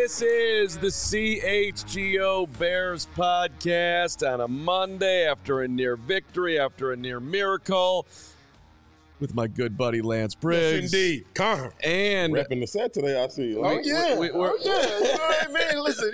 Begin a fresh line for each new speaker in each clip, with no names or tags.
This is the CHGO Bears podcast on a Monday after a near victory, after a near miracle, with my good buddy Lance Briggs.
Yes, indeed. Calm.
And
repping the set today, I see.
You know what I mean? Listen,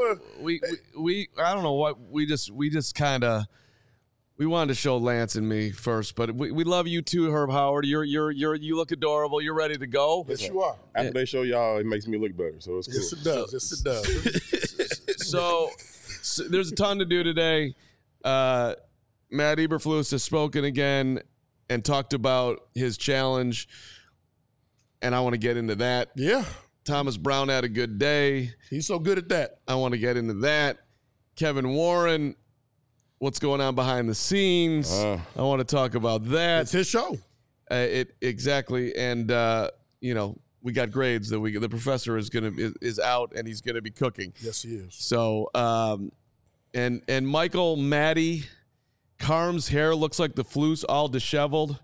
I don't know what we just kind of. We wanted to show Lance and me first, but we love you too, Herb Howard. You look adorable. You're ready to go.
Yes, you are.
After they show y'all, it makes me look better, so it's cool.
Yes, it does. Yes, it does.
So there's a ton to do today. Matt Eberflus has spoken again and talked about his challenge, and I want to get into that.
Yeah.
Thomas Brown had a good day.
He's so good at that.
I want to get into that. Kevin Warren, what's going on behind the scenes? I want to talk about that.
It's his show.
Exactly, and we got grades that the professor is out and he's gonna be cooking.
Yes, he is.
So, and Michael Maddie, Carm's hair looks like the Flus all disheveled.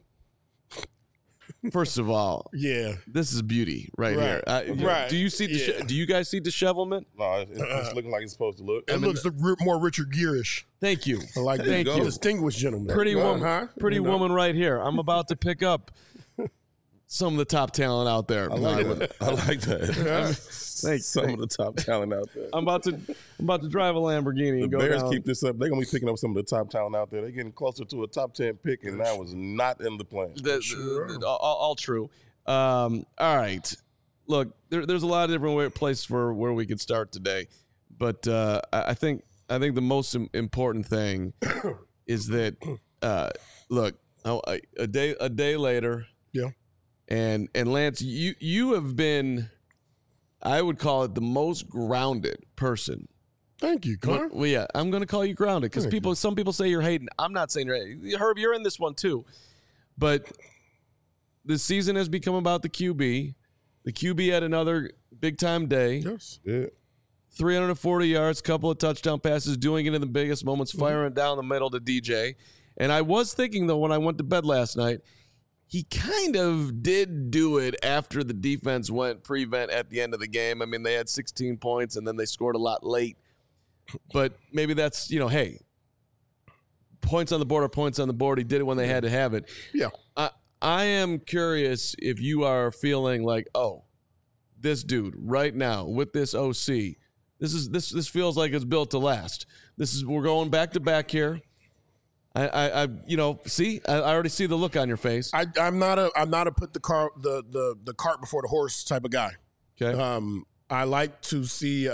First of all,
yeah,
this is beauty right here.
Right.
Do you see? Do you guys see dishevelment?
No, it's looking like it's supposed to look.
It looks more Richard Gere-ish.
Thank you.
I like that.
Thank you.
Distinguished gentleman.
Pretty woman right here. I'm about to pick up some of the top talent out there.
I like that. Some of the top talent out there.
I'm about to drive a Lamborghini and go
Bears
down.
keep this up. They're gonna be picking up some of the top talent out there. They're getting closer to a top 10 pick, and that was not in the plan.
All true. All right. Look, there's a lot of different places where we could start today, but I think the most important thing is that look, a day later.
Yeah.
And Lance, you have been, I would call it, the most grounded person.
Thank you, Connor.
Well, yeah, I'm going to call you grounded because some people say you're hating. I'm not saying you're hating. Herb, you're in this one too. But the season has become about the QB. The QB had another big-time day.
Yes.
Yeah.
340 yards, couple of touchdown passes, doing it in the biggest moments, firing down the middle to DJ. And I was thinking, though, when I went to bed last night, he kind of did do it after the defense went prevent at the end of the game. I mean, they had 16 points, and then they scored a lot late. But maybe that's, hey, points on the board are points on the board. He did it when they had to have it.
Yeah.
I am curious if you are feeling like, oh, this dude right now with this OC, this feels like it's built to last. We're going back to back here. I already see the look on your face.
I'm not a put the cart before the horse type of guy.
Okay.
I like to see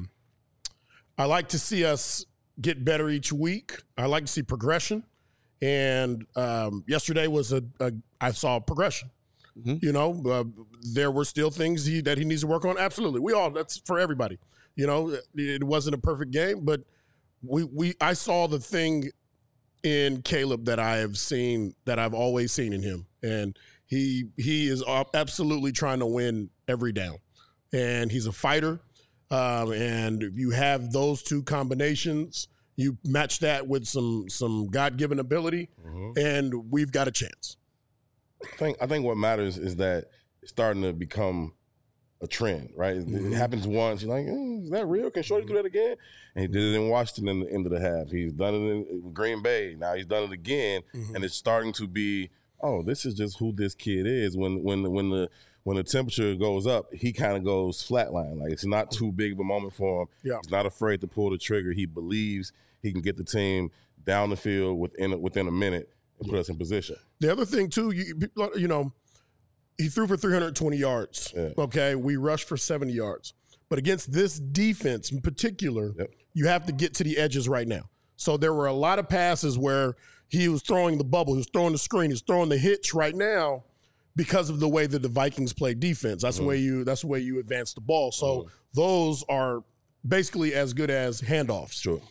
us get better each week. I like to see progression. And yesterday was I saw progression. Mm-hmm. There were still things that he needs to work on. Absolutely. That's for everybody. It wasn't a perfect game, but I saw the thing in Caleb that I've always seen in him. And he is absolutely trying to win every down. And he's a fighter. And if you have those two combinations, you match that with some God-given ability, and we've got a chance.
I think what matters is that it's starting to become a trend, right? It happens once. You're like, is that real? Can Shorty do that again? And he did it in Washington in the end of the half. He's done it in Green Bay. Now he's done it again, and it's starting to be, oh, this is just who this kid is. When the temperature goes up, he kind of goes flatline. Like, it's not too big of a moment for him.
Yeah.
He's not afraid to pull the trigger. He believes he can get the team down the field within a minute and put us in position.
The other thing too, he threw for 320 yards.
Yeah.
Okay, we rushed for 70 yards. But against this defense in particular, you have to get to the edges right now. So there were a lot of passes where he was throwing the bubble, he was throwing the screen, he's throwing the hitch right now because of the way that the Vikings play defense. That's the way you advance the ball. So those are basically as good as handoffs.
Sure.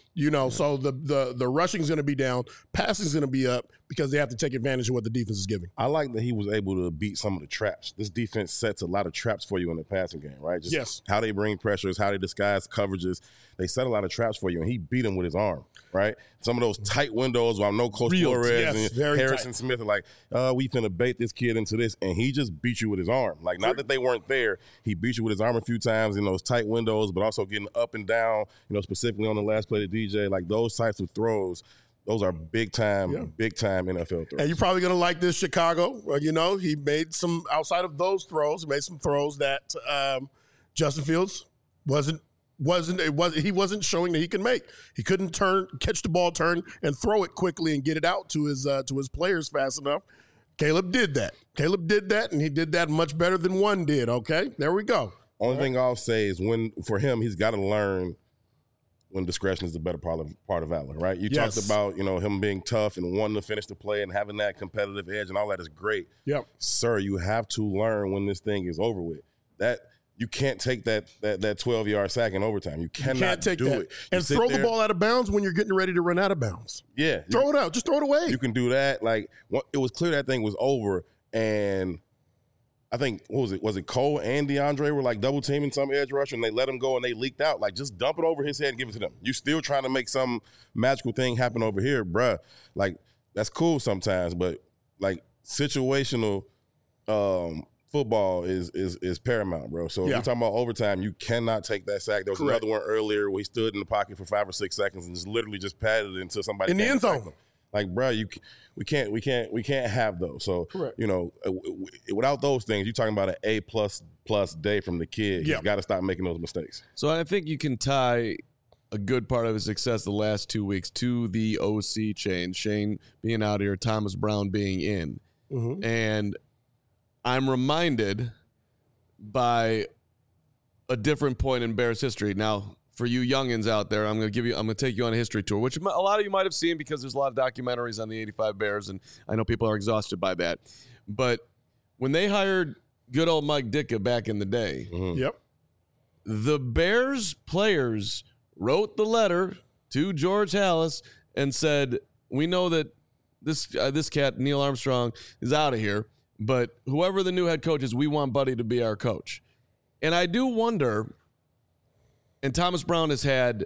You know, so the rushing is going to be down, passing is going to be up because they have to take advantage of what the defense is giving.
I like that he was able to beat some of the traps. This defense sets a lot of traps for you in the passing game, right? Just
yes.
How they bring pressures, how they disguise coverages. They set a lot of traps for you, and he beat them with his arm, right? Some of those tight windows where I know Coach Flores and Harrison Smith are like, we finna bait this kid into this, and he just beat you with his arm. Like, not that they weren't there. He beat you with his arm a few times in those tight windows, but also getting up and down, you know, specifically on the last play to DJ. Like, those types of throws, those are big-time NFL throws.
And you're probably going to like this, Chicago. You know, he made some, outside of those throws, he made some throws that Justin Fields he wasn't showing that he can make. He couldn't catch the ball, turn, and throw it quickly and get it out to his players fast enough. Caleb did that. And he did that much better than one did, okay? There we go.
Only thing I'll say is for him, he's got to learn when discretion is the better part of valor, right? You talked about, you know, him being tough and wanting to finish the play and having that competitive edge and all that is great.
Yep.
Sir, you have to learn when this thing is over with. You can't take that 12-yard sack in overtime. You cannot do it.
And throw the ball out of bounds when you're getting ready to run out of bounds.
Yeah.
Throw it out. Just throw it away.
You can do that. Like, it was clear that thing was over, and I think, what was it Cole and DeAndre were like double teaming some edge rusher, and they let him go and they leaked out. Like, just dump it over his head and give it to them. You still trying to make some magical thing happen over here, bruh. Like, that's cool sometimes, but like situational football is paramount, bro. So if you're talking about overtime, you cannot take that sack. There was another one earlier where he stood in the pocket for 5 or 6 seconds and just literally just patted it until somebody
in the end zone.
Like, bro, we can't have those. So you know, without those things, you're talking about an A plus day from the kid. He's got to stop making those mistakes.
So I think you can tie a good part of his success the last 2 weeks to the OC change. Shane being out here, Thomas Brown being in, and I'm reminded by a different point in Bears history. Now, for you youngins out there, I'm going to take you on a history tour, which a lot of you might have seen because there's a lot of documentaries on the 85 Bears, and I know people are exhausted by that. But when they hired good old Mike Ditka back in the day, the Bears players wrote the letter to George Halas and said, we know that this cat, Neil Armstrong, is out of here. But whoever the new head coach is, we want Buddy to be our coach. And I do wonder, and Thomas Brown has had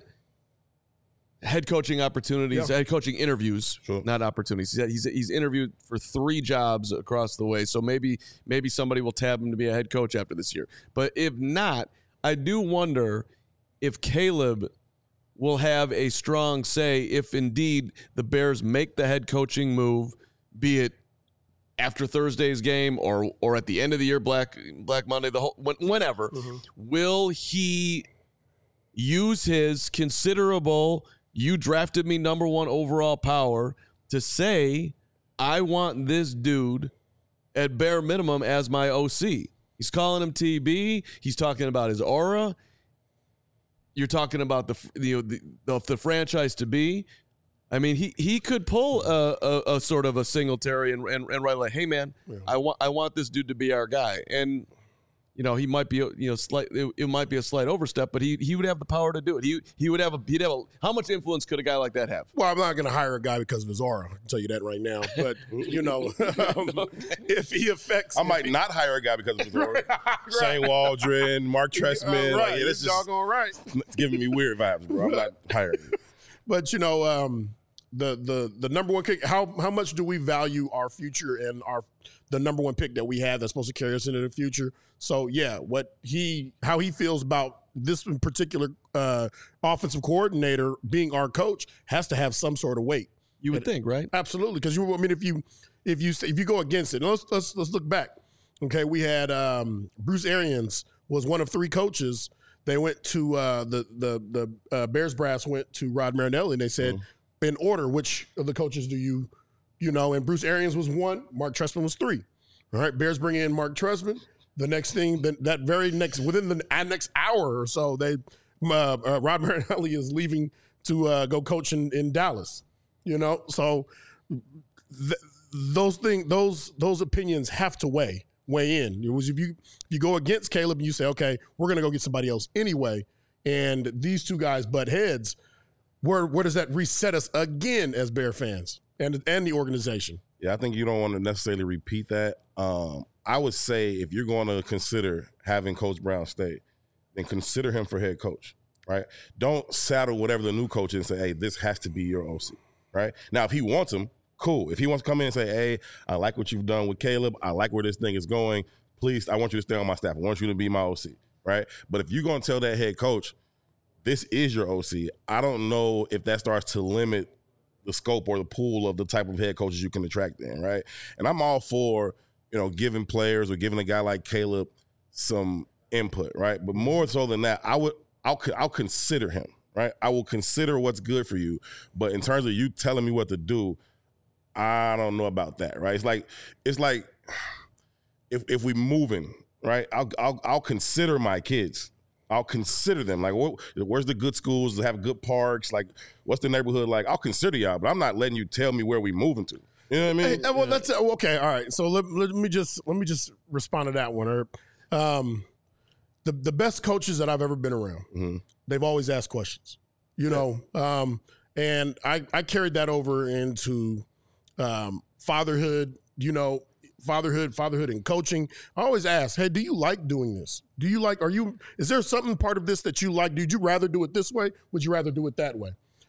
head coaching opportunities, head coaching interviews, not opportunities. He's interviewed for 3 jobs across the way. So maybe somebody will tab him to be a head coach after this year. But if not, I do wonder if Caleb will have a strong say if indeed the Bears make the head coaching move, be it after Thursday's game or at the end of the year, Black Monday, whenever. Will he use his considerable, you drafted me number 1 overall power to say, I want this dude at bare minimum as my OC? He's calling him TB. He's talking about his aura. You're talking about the franchise to be. I mean, he could pull a sort of a Singletary and write like, hey man, I want this dude to be our guy, and you know he might be it might be a slight overstep, but he would have the power to do it. He'd have how much influence could a guy like that have?
Well, I'm not going to hire a guy because of his aura. I can tell you that right now. But you know, if he affects,
I might not hire a guy because of his aura. Shane Waldron, Mark Trestman,
right?
This is
doggone right.
It's giving me weird vibes, bro. I'm not hiring.
But you know, the number 1 pick, how much do we value our future and the number 1 pick that we have that's supposed to carry us into the future? So yeah, how he feels about this in particular offensive coordinator being our coach has to have some sort of weight.
You would think, right?
Absolutely, because if you go against it, let's look back. Okay, we had Bruce Arians was one of 3 coaches. They went to the Bears brass went to Rod Marinelli and they said, in order, which of the coaches do you know? And Bruce Arians was 1, Mark Trestman was 3. All right, Bears bring in Mark Trestman. The next thing, within the next hour or so, Rod Marinelli is leaving to go coach in Dallas. You know, so those opinions have to weigh in. It was if you go against Caleb and you say, okay, we're going to go get somebody else anyway, and these 2 guys butt heads, where does that reset us again as Bear fans and the organization?
Yeah, I think you don't want to necessarily repeat that. I would say if you're going to consider having Coach Brown stay, then consider him for head coach, right? Don't saddle whatever the new coach is and say, hey, this has to be your OC, right? Now, if he wants him, cool. If he wants to come in and say, hey, I like what you've done with Caleb. I like where this thing is going. Please, I want you to stay on my staff. I want you to be my OC, right? But if you're going to tell that head coach, this is your OC, I don't know if that starts to limit the scope or the pool of the type of head coaches you can attract in, right? And I'm all for, giving players or giving a guy like Caleb some input, right? But more so than that, I'll consider him, right? I will consider what's good for you. But in terms of you telling me what to do, I don't know about that, right? It's like if we moving, right? I'll consider my kids. I'll consider them. Like, where's the good schools that have good parks? Like, what's the neighborhood like? I'll consider y'all, but I'm not letting you tell me where we moving to. You know what I mean?
Hey, well, that's okay. All right. So let me just respond to that one, Herb. The best coaches that I've ever been around, they've always asked questions. And I carried that over into fatherhood. Fatherhood and coaching. I always ask, hey, do you like doing this? Is there something part of this that you like? Did you rather do it this way? Would you rather do it that way?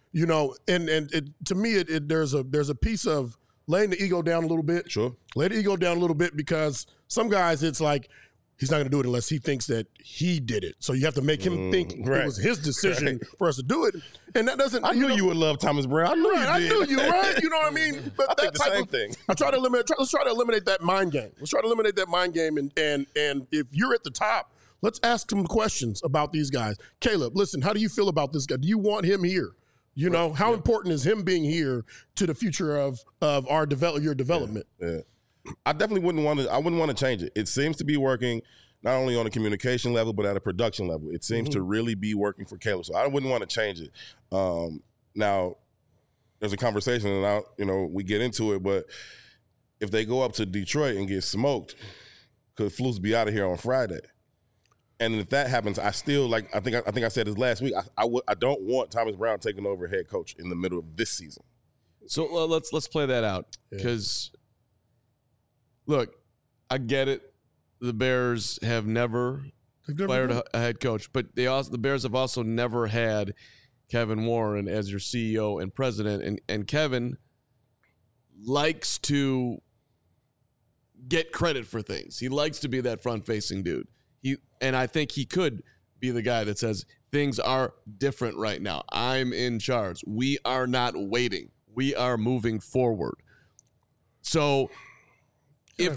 To me, there's a piece of laying the ego down a little bit.
Sure.
Lay the ego down a little bit because some guys, it's like, he's not going to do it unless he thinks that he did it. So you have to make him think it was his decision for us to do it. And that doesn't.
I knew you would love Thomas Brown. I knew you did.
I knew you, right? You know what I mean? But
I think the same thing.
I try to eliminate. Let's try to eliminate that mind game. Let's try to eliminate that mind game. And if you're at the top, let's ask some questions about these guys. Caleb, listen, how do you feel about this guy? Do you want him here? How important is him being here to the future of your development?
Yeah. I definitely wouldn't want to change it. It seems to be working not only on a communication level, but at a production level. It seems to really be working for Caleb. So I wouldn't want to change it. Now, there's a conversation, and we get into it, but if they go up to Detroit and get smoked, could Flus be out of here on Friday? And if that happens, I still I think I said this last week. I don't want Thomas Brown taking over head coach in the middle of this season.
So let's play that out because, look, I get it. The Bears have never fired a head coach, but the Bears have also never had Kevin Warren as your CEO and president, and Kevin likes to get credit for things. He likes to be that front-facing dude. And I think he could be the guy that says things are different right now. I'm in charge. We are not waiting. We are moving forward. So if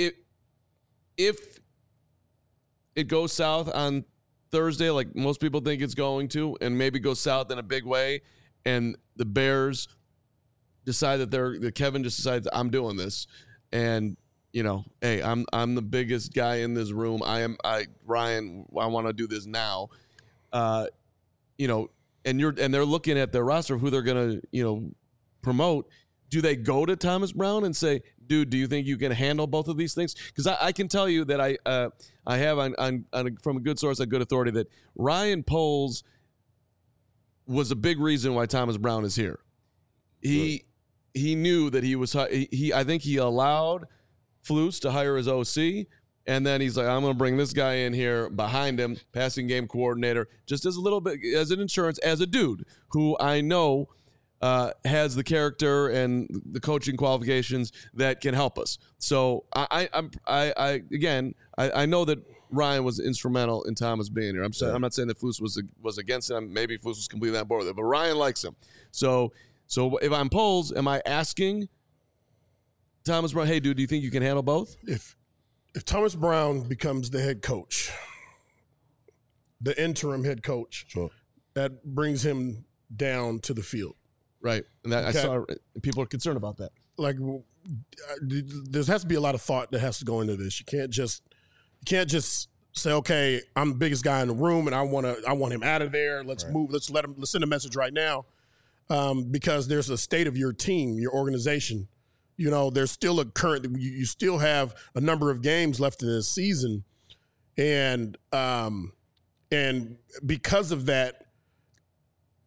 it goes south on Thursday, like most people think it's going to, and maybe goes south in a big way, and the Bears decide that Kevin just decides I'm doing this, and hey, I'm the biggest guy in this room. Ryan, I want to do this now. And they're looking at their roster of who they're gonna, promote. Do they go to Thomas Brown and say, dude, do you think you can handle both of these things? Because I can tell you that I have from a good source, a good authority, that Ryan Poles was a big reason why Thomas Brown is here. He knew that he was. I think he allowed Flus to hire his OC, and then he's like, I'm going to bring this guy in here behind him, passing game coordinator, just as a little bit, as an insurance, as a dude who I know has the character and the coaching qualifications that can help us. So I know that Ryan was instrumental in Thomas being here. I'm not saying that Flus was against him. Maybe Flus was completely on board with it, but Ryan likes him. So if I'm Poles, am I asking Thomas Brown, hey, dude, do you think you can handle both?
If Thomas Brown becomes the head coach, the interim head coach, that brings him down to the field.
Right. And that I saw people are concerned about that.
Like, there has to be a lot of thought that has to go into this. You can't just say, okay, I'm the biggest guy in the room and I want him out of there. Let's move. Let's send a message right now. Because there's a state of your team, your organization. There's still you still have a number of games left in this season. And because of that,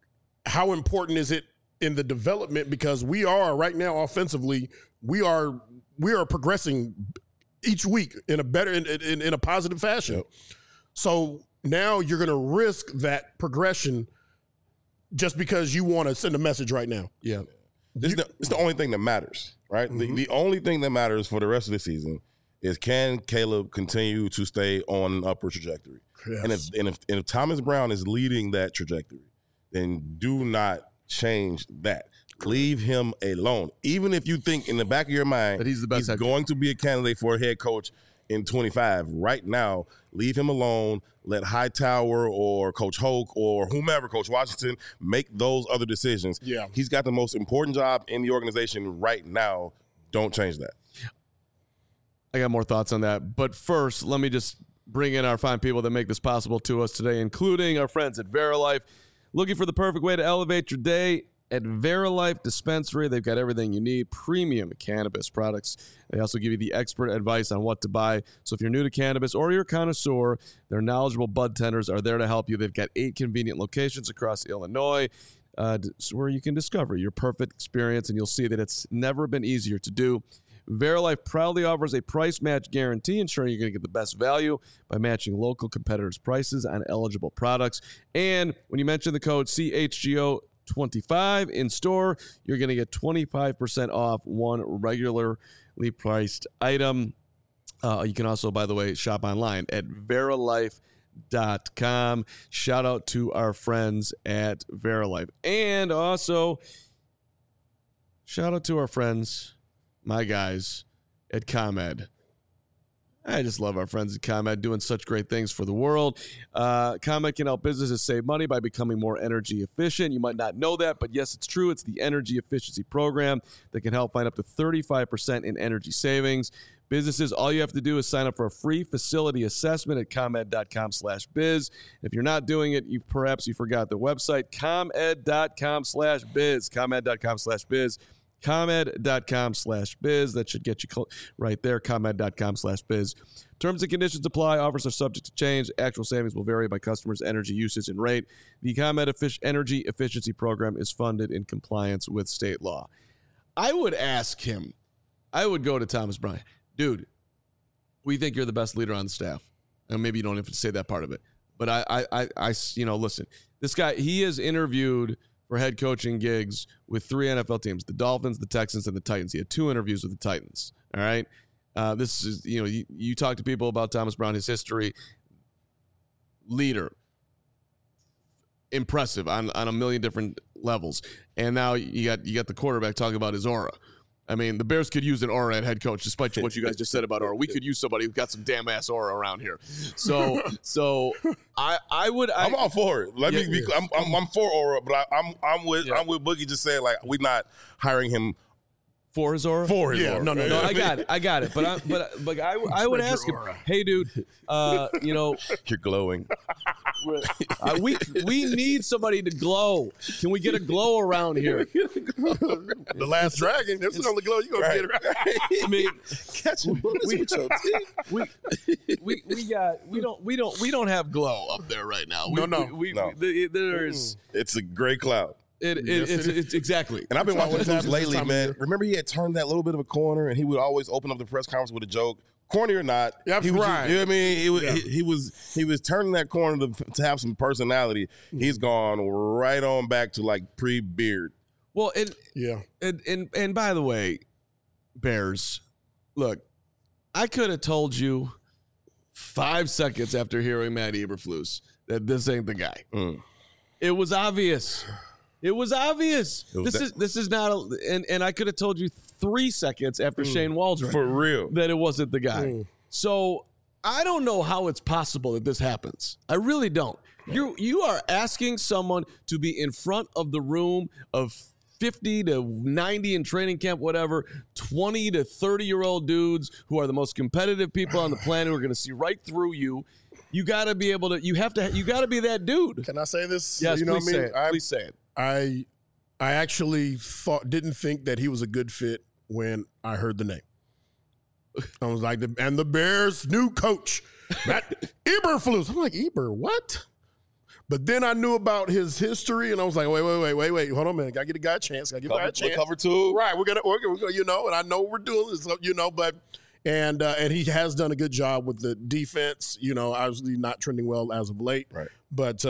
how important is it in the development? Because we are right now offensively, we are progressing each week in a better in a positive fashion.
Yep.
So now you're going to risk that progression just because you want to send a message right now.
Yeah.
It's the only thing that matters, right?
Mm-hmm.
The only thing that matters for the rest of the season is, can Caleb continue to stay on an upward trajectory?
Yes.
And if Thomas Brown is leading that trajectory, then do not change that. Leave him alone. Even if you think in the back of your mind
that he's the best head coach,
going to be a candidate for a head coach in 25, right now, leave him alone. Let Hightower or Coach Hoke or whomever, Coach Washington, make those other decisions.
Yeah.
He's got the most important job in the organization right now. Don't change that.
I got more thoughts on that. But first, let me just bring in our fine people that make this possible to us today, including our friends at Verilife. Looking for the perfect way to elevate your day? At Verilife Dispensary, they've got everything you need, premium cannabis products. They also give you the expert advice on what to buy. So if you're new to cannabis or you're a connoisseur, their knowledgeable bud tenders are there to help you. They've got 8 convenient locations across Illinois where you can discover your perfect experience, and you'll see that it's never been easier to do. Verilife proudly offers a price match guarantee, ensuring you're going to get the best value by matching local competitors' prices on eligible products. And when you mention the code CHGO25 in store, you're going to get 25% off one regularly priced item. You can also, by the way, shop online at Verilife.com. Shout out to our friends at Verilife. And also, shout out to our friends, my guys at ComEd. I just love our friends at ComEd doing such great things for the world. ComEd can help businesses save money by becoming more energy efficient. You might not know that, but yes, it's true. It's the energy efficiency program that can help find up to 35% in energy savings. Businesses, all you have to do is sign up for a free facility assessment at ComEd.com/biz. If you're not doing it, perhaps you forgot the website, ComEd.com/biz, ComEd.com/biz. ComEd.com/biz. That should get you right there. ComEd.com/biz. Terms and conditions apply. Offers are subject to change. Actual savings will vary by customers' energy usage and rate. The ComEd Energy Efficiency Program is funded in compliance with state law. I would ask him, I would go to Thomas Brown. Dude, we think you're the best leader on the staff. And maybe you don't have to say that part of it. But I listen, this guy, he has interviewed for head coaching gigs with 3 NFL teams, the Dolphins, the Texans, and the Titans. He had 2 interviews with the Titans. All right. This is, you talk to people about Thomas Brown, his history, leader, impressive on a million different levels. And now you got the quarterback talking about his aura. I mean, the Bears could use an aura at head coach, despite what you guys just said about aura. We could use somebody who's got some damn ass aura around here. So I would.
I'm all for it. I'm for aura, but I'm with Boogie just saying, like, we're not hiring him
for his aura.
For his aura.
No, I got it. But I would ask him, hey, dude, you're
glowing.
We need somebody to glow. Can we get a glow around here?
The Last Dragon. That's the only glow you gonna get. Right?
I mean, we don't have glow up there right now. There's
it's a gray cloud.
It's exactly.
And I've been watching this lately, man. Remember, he had turned that little bit of a corner, and he would always open up the press conference with a joke. Corny or not,
he was right.
You know what I mean? He was turning that corner to have some personality. He's gone right on back to like pre-beard.
Well, and by the way, Bears, look, I could have told you 5 seconds after hearing Matt Eberflus that this ain't the guy. It was obvious. This is not and I could have told you 3 seconds after Shane Waldron
for real
that it wasn't the guy. So I don't know how it's possible that this happens. I really don't. You are asking someone to be in front of the room of 50 to 90 in training camp, whatever, 20 to 30-year-old dudes who are the most competitive people on the planet who are going to see right through you. You got to be able to. You got to be that dude.
Can I say this?
Yes, please say it.
I actually didn't think that he was a good fit when I heard the name. I was like, and the Bears' new coach, Matt Eberflus. I'm like, Eber, what? But then I knew about his history, and I was like, wait, hold on a minute. Gotta get a guy a chance. Gotta give a guy a chance.
Cover two.
Right, we're gonna, you know, and I know what we're doing this, you know, but and he has done a good job with the defense. You know, obviously not trending well as of late.
Right.
But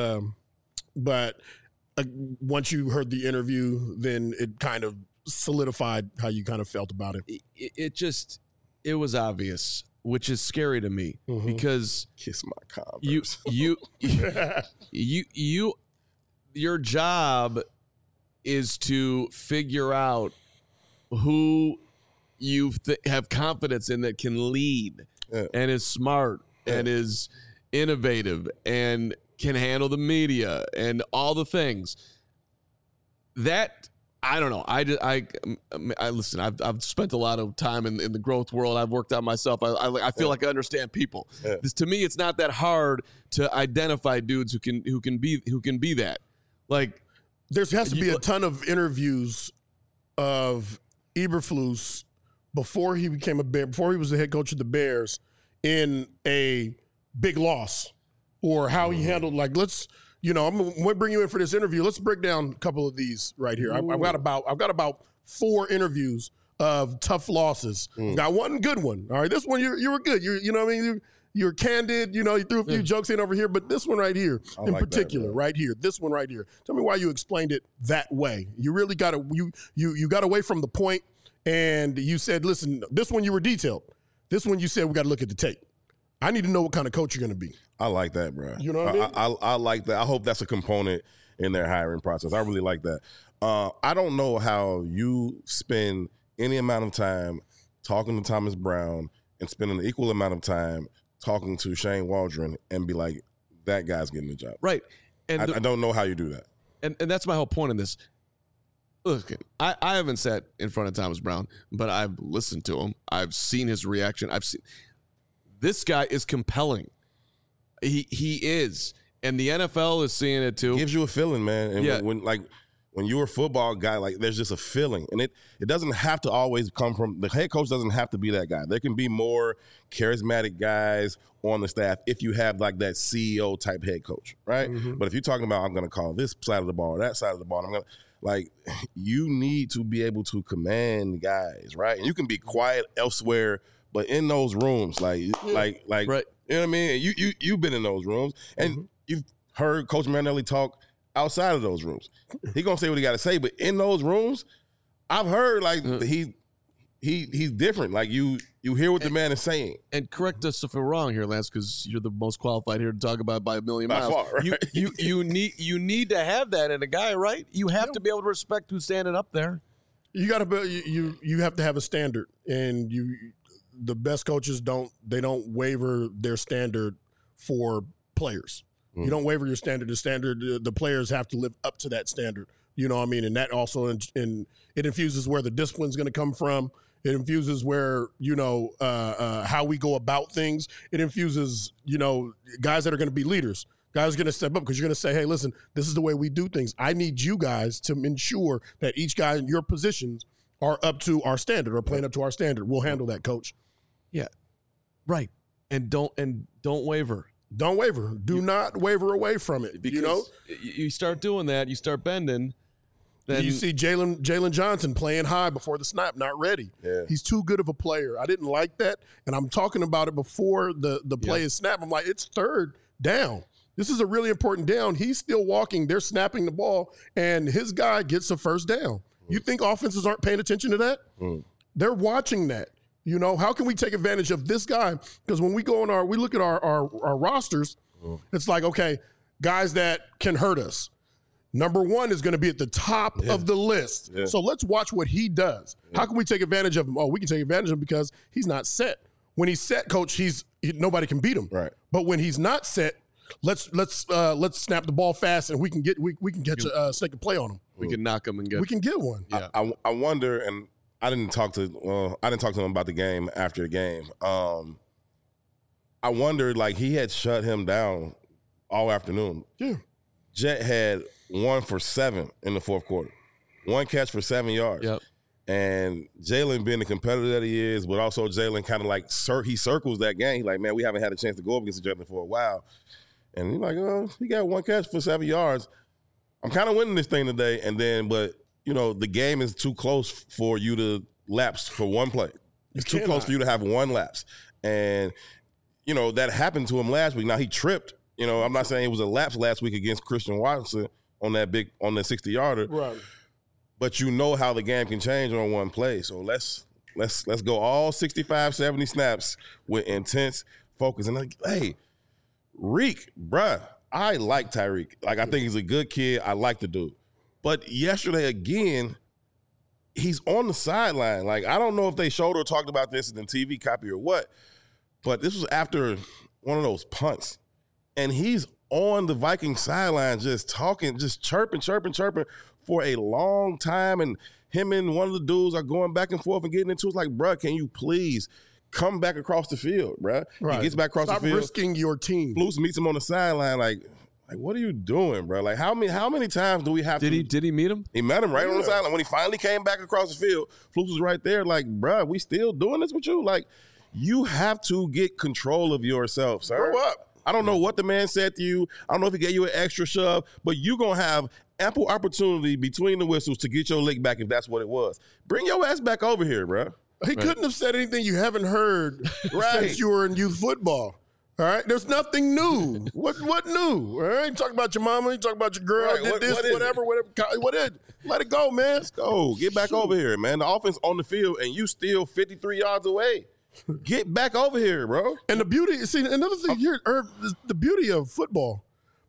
once you heard the interview, then it kind of solidified how you kind of felt about it.
It was obvious, which is scary to me because
Kiss my Converse.
your job is to figure out who you have confidence in that can lead and is smart and is innovative and can handle the media and all the things. That I don't know. I listen. I've spent a lot of time in the growth world. I've worked out myself. I feel like I understand people. Yeah. To me, it's not that hard to identify dudes who can be that. Like
there has to be a ton of interviews of Eberflus before he became a Bear, before he was the head coach of the Bears, in a big loss, or how he handled, like, let's, you know, I'm going to bring you in for this interview. Let's break down a couple of these right here. I've got about 4 interviews of tough losses. Got one good one. All right, this one you were good. You know what I mean? You're candid. You know, you threw a few jokes in over here, but this one right here, in like particular, right here, this one right here. Tell me why you explained it that way. You really got to you got away from the point, and you said, listen, this one you were detailed. This one you said we got to look at the tape. I need to know what kind of coach you're going to be.
I like that, bro.
You know what I mean?
I like that. I hope that's a component in their hiring process. I really like that. I don't know how you spend any amount of time talking to Thomas Brown and spending an equal amount of time talking to Shane Waldron and be like, that guy's getting the job.
Right. And
I don't know how you do that.
And that's my whole point in this. Look, I haven't sat in front of Thomas Brown, but I've listened to him. I've seen his reaction. This guy is compelling. He is. And the NFL is seeing it too.
It gives you a feeling, man. And when you're a football guy, like, there's just a feeling. And it doesn't have to always come from, the head coach doesn't have to be that guy. There can be more charismatic guys on the staff if you have like that CEO type head coach, right? But if you're talking about, I'm going to call this side of the ball or that side of the ball, you need to be able to command guys, right? And you can be quiet elsewhere, but in those rooms, right. You know what I mean? You've been in those rooms, and you've heard Coach Marinelli talk outside of those rooms. He gonna say what he got to say, but in those rooms, I've heard he's different. Like you hear what the man is saying.
And correct us if we're wrong here, Lance, because you're the most qualified here to talk about it by a million miles.
By far, right?
You need to have that in a guy, right? You have to be able to respect who's standing up there.
You got to you have to have a standard, and the best coaches don't waver their standard for players. You don't waver your standard. The players have to live up to that standard. You know what I mean? And that also it infuses where the discipline's going to come from. It infuses where, how we go about things. It infuses, guys that are going to be leaders. Guys are going to step up because you're going to say, hey, listen, this is the way we do things. I need you guys to ensure that each guy in your positions are up to our standard or playing up to our standard. We'll handle that, coach.
Yeah. Right. And don't waver.
Don't waver. Do not waver away from it.
Because you start doing that, you start bending. Then
you see Jalen Johnson playing high before the snap, not ready.
Yeah.
He's too good of a player. I didn't like that, and I'm talking about it before the play is snapped. I'm like, it's third down. This is a really important down. He's still walking. They're snapping the ball, and his guy gets a first down. You think offenses aren't paying attention to that? They're watching that. How can we take advantage of this guy? Because when we look at our rosters, it's like, okay, guys that can hurt us. Number 1 is going to be at the top of the list. Yeah. So let's watch what he does. Yeah. How can we take advantage of him? Oh, we can take advantage of him because he's not set. When he's set, coach, nobody can beat him.
Right.
But when he's not set, let's snap the ball fast and we can catch a second play on him.
We can knock him and
we can get one.
Yeah. I wonder, and I didn't talk to him about the game after the game. I wondered, like, he had shut him down all afternoon.
Yeah.
Jet had 1 for 7 in the fourth quarter. 1 catch for 7 yards.
Yep.
And Jalen, being the competitor that he is, but also Jalen kind of like he circles that game. He's like, man, we haven't had a chance to go up against each other for a while. And he's like, oh, he got one catch for 7 yards. I'm kind of winning this thing today. And then, but, the game is too close for you to lapse for one play. It's too close for you to have one lapse. And, that happened to him last week. Now, he tripped. I'm not saying it was a lapse last week against Christian Watson on that 60-yarder.
Right.
But how the game can change on one play. So let's go all 65, 70 snaps with intense focus. And hey, Reek, bruh, I like Tyreek. Like, I think he's a good kid. I like the dude. But yesterday, again, he's on the sideline. Like, I don't know if they showed or talked about this in the TV copy or what, but this was after one of those punts. And he's on the Viking sideline just talking, just chirping for a long time. And him and one of the dudes are going back and forth and getting into it. It's like, bruh, can you please come back across the field, bruh?
Right.
He gets back across
Stop
the field.
Risking your team.
Flus meets him on the sideline like, what are you doing, bro? Like, how many times do we have to?
Did he meet him?
He met him right on the sideline. When he finally came back across the field, Flus was right there like, bro, we still doing this with you? Like, you have to get control of yourself, sir.
Grow up.
I don't know what the man said to you. I don't know if he gave you an extra shove, but you're going to have ample opportunity between the whistles to get your lick back if that's what it was. Bring your ass back over here, bro.
He couldn't have said anything you haven't heard since you were in youth football. All right, there's nothing new. What new? All right, you talk about your mama, you talk about your girl,
Right.
did this, whatever. What is? Let it go, man. Let's
go. Get back over here, man. The offense on the field, and you still 53 yards away. Get back over here, bro.
And the beauty, another thing here, Herb, the beauty of football.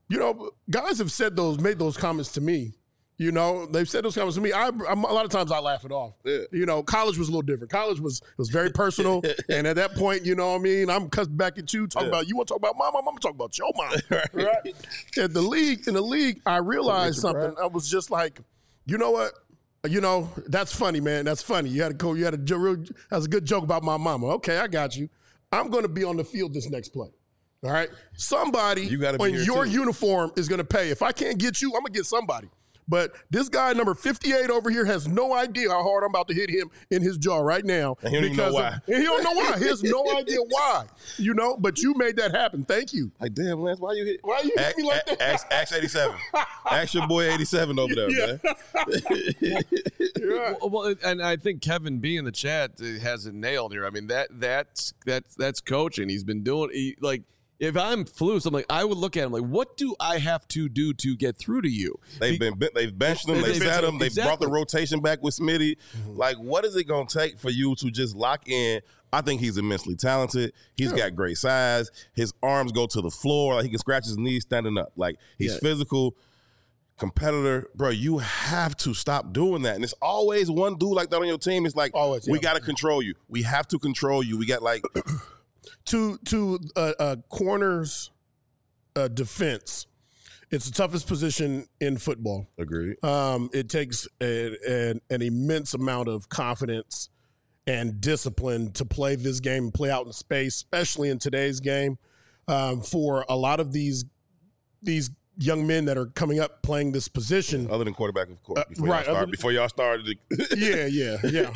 Guys have made those comments to me. They've said those comments to me. A lot of times I laugh it off.
Yeah.
College was a little different. College was very personal. And at that point, I'm cussing back at you, talking about, you want to talk about my mom, I'm talking about your mom. Right? In the league, I realized something. I was just like, you know what? That's funny, man. That's funny. That's a good joke about my mama. Okay, I got you. I'm going to be on the field this next play. All right? Somebody in your uniform is going to pay. If I can't get you, I'm going to get somebody. But this guy, number 58 over here, has no idea how hard I'm about to hit him in his jaw right now.
And he don't even know why.
And he don't know why. He has no idea why. But you made that happen. Thank you.
Like, damn, Lance, why you hit
me like that?
Ask 87. Ask your boy 87 over there, man.
Yeah.
Well, and I think Kevin B in the chat has it nailed here. I mean, that's coaching. He's been doing if I'm Flus, I'm like, I would look at him like, what do I have to do to get through to you?
They've benched him. They sat him. They brought the rotation back with Smitty. Mm-hmm. Like, what is it going to take for you to just lock in? I think he's immensely talented. He's got great size. His arms go to the floor. Like, he can scratch his knees standing up. Like, he's physical, competitor. Bro, you have to stop doing that. And it's always one dude like that on your team. It's like, we got to control you. We have to control you. We got like...
To corner's defense, it's the toughest position in football.
Agreed.
It takes an immense amount of confidence and discipline to play this game and play out in space, especially in today's game. For a lot of these young men that are coming up playing this position,
other than quarterback, of course. Before y'all started.
Yeah.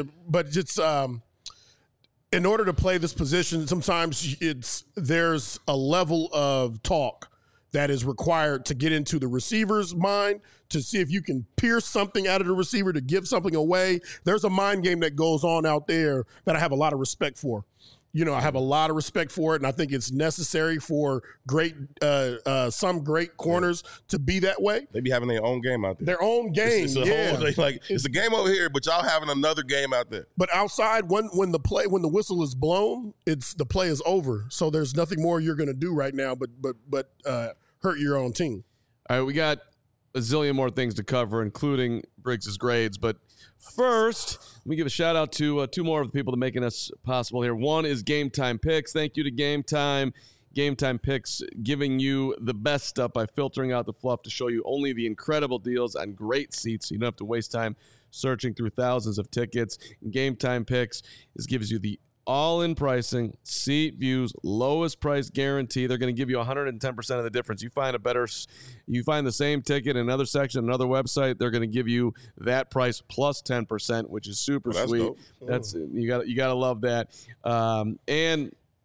In order to play this position, sometimes there's a level of talk that is required to get into the receiver's mind to see if you can pierce something out of the receiver to give something away. There's a mind game that goes on out there that I have a lot of respect for. I have a lot of respect for it, and I think it's necessary for some great corners to be that way.
They be having their own game out there.
Their own game,
it's a game over here, but y'all having another game out there.
But outside, when the whistle is blown, the play is over. So there's nothing more you're going to do right now, but hurt your own team.
All right, we got a zillion more things to cover, including Briggs' grades, but first, let me give a shout out to two more of the people that are making us possible here. One is Game Time Picks. Thank you to Game Time. Game Time Picks giving you the best stuff by filtering out the fluff to show you only the incredible deals on great seats so you don't have to waste time searching through thousands of tickets. Game Time Picks gives you the all-in pricing, seat views, lowest price guarantee. They're going to give you 110% of the difference. You find the same ticket in another section, another website, they're going to give you that price plus 10%, which is super sweet.
Dope.
That's you got to love that. And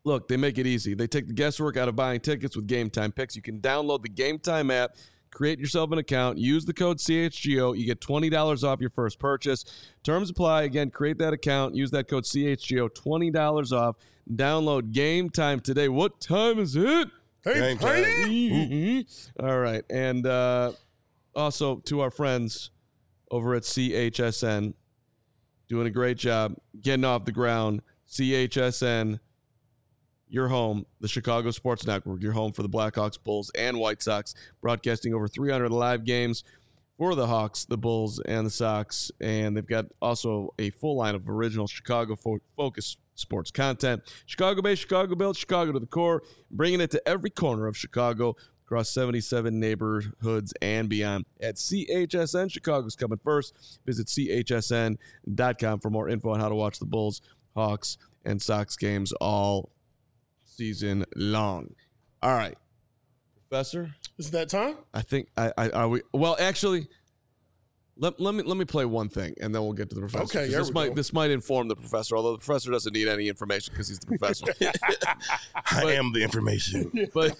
Look, they make it easy. They take the guesswork out of buying tickets with Game Time Picks. You can download the Game Time app, create yourself an account, use the code CHGO. You get $20 off your first purchase. Terms apply. Again, create that account, use that code CHGO, $20 off. Download Game Time today. What time is it?
Game time.
All right. And also to our friends over at CHSN, doing a great job getting off the ground. CHSN, your home, the Chicago Sports Network, your home for the Blackhawks, Bulls, and White Sox, broadcasting over 300 live games for the Hawks, the Bulls, and the Sox. And they've got also a full line of original Chicago-focused sports content. Chicago-based, Chicago-built, Chicago to the core, bringing it to every corner of Chicago across 77 neighborhoods and beyond. At CHSN, Chicago's coming first. Visit chsn.com for more info on how to watch the Bulls, Hawks, and Sox games all season long. All right, Professor.
Is that time?
I think are we? Well, actually, let me play one thing, and then we'll get to the Professor.
Okay,
this might inform the Professor, although the Professor doesn't need any information because he's the Professor.
I am the information.
But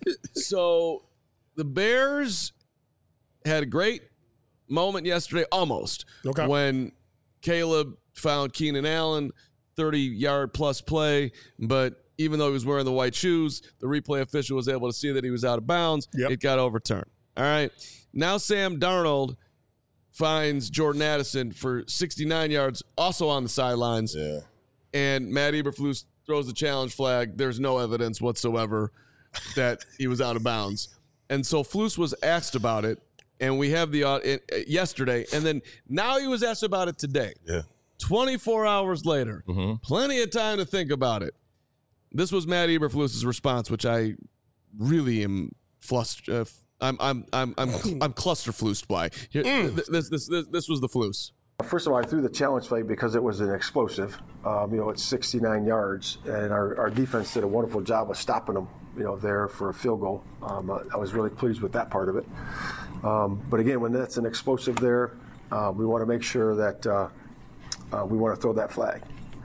so the Bears had a great moment yesterday, almost, when Caleb found Keenan Allen, 30-yard plus play, but even though he was wearing the white shoes, the replay official was able to see that he was out of bounds. Yep. It got overturned. All right. Now Sam Darnold finds Jordan Addison for 69 yards, also on the sidelines.
Yeah.
And Matt Eberflus throws the challenge flag. There's no evidence whatsoever that he was out of bounds. And so Flus was asked about it, and we have the yesterday, and then now he was asked about it today.
Yeah.
24 hours later.
Mm-hmm.
Plenty of time to think about it. This was Matt Eberflus's response, which I really am flustered. I'm clusterflused by. Here, this was the flus.
First of all, I threw the challenge flag because it was an explosive. It's 69 yards, and our defense did a wonderful job of stopping them. There for a field goal. I was really pleased with that part of it. But again, when that's an explosive there, we want to make sure that we want to throw that flag.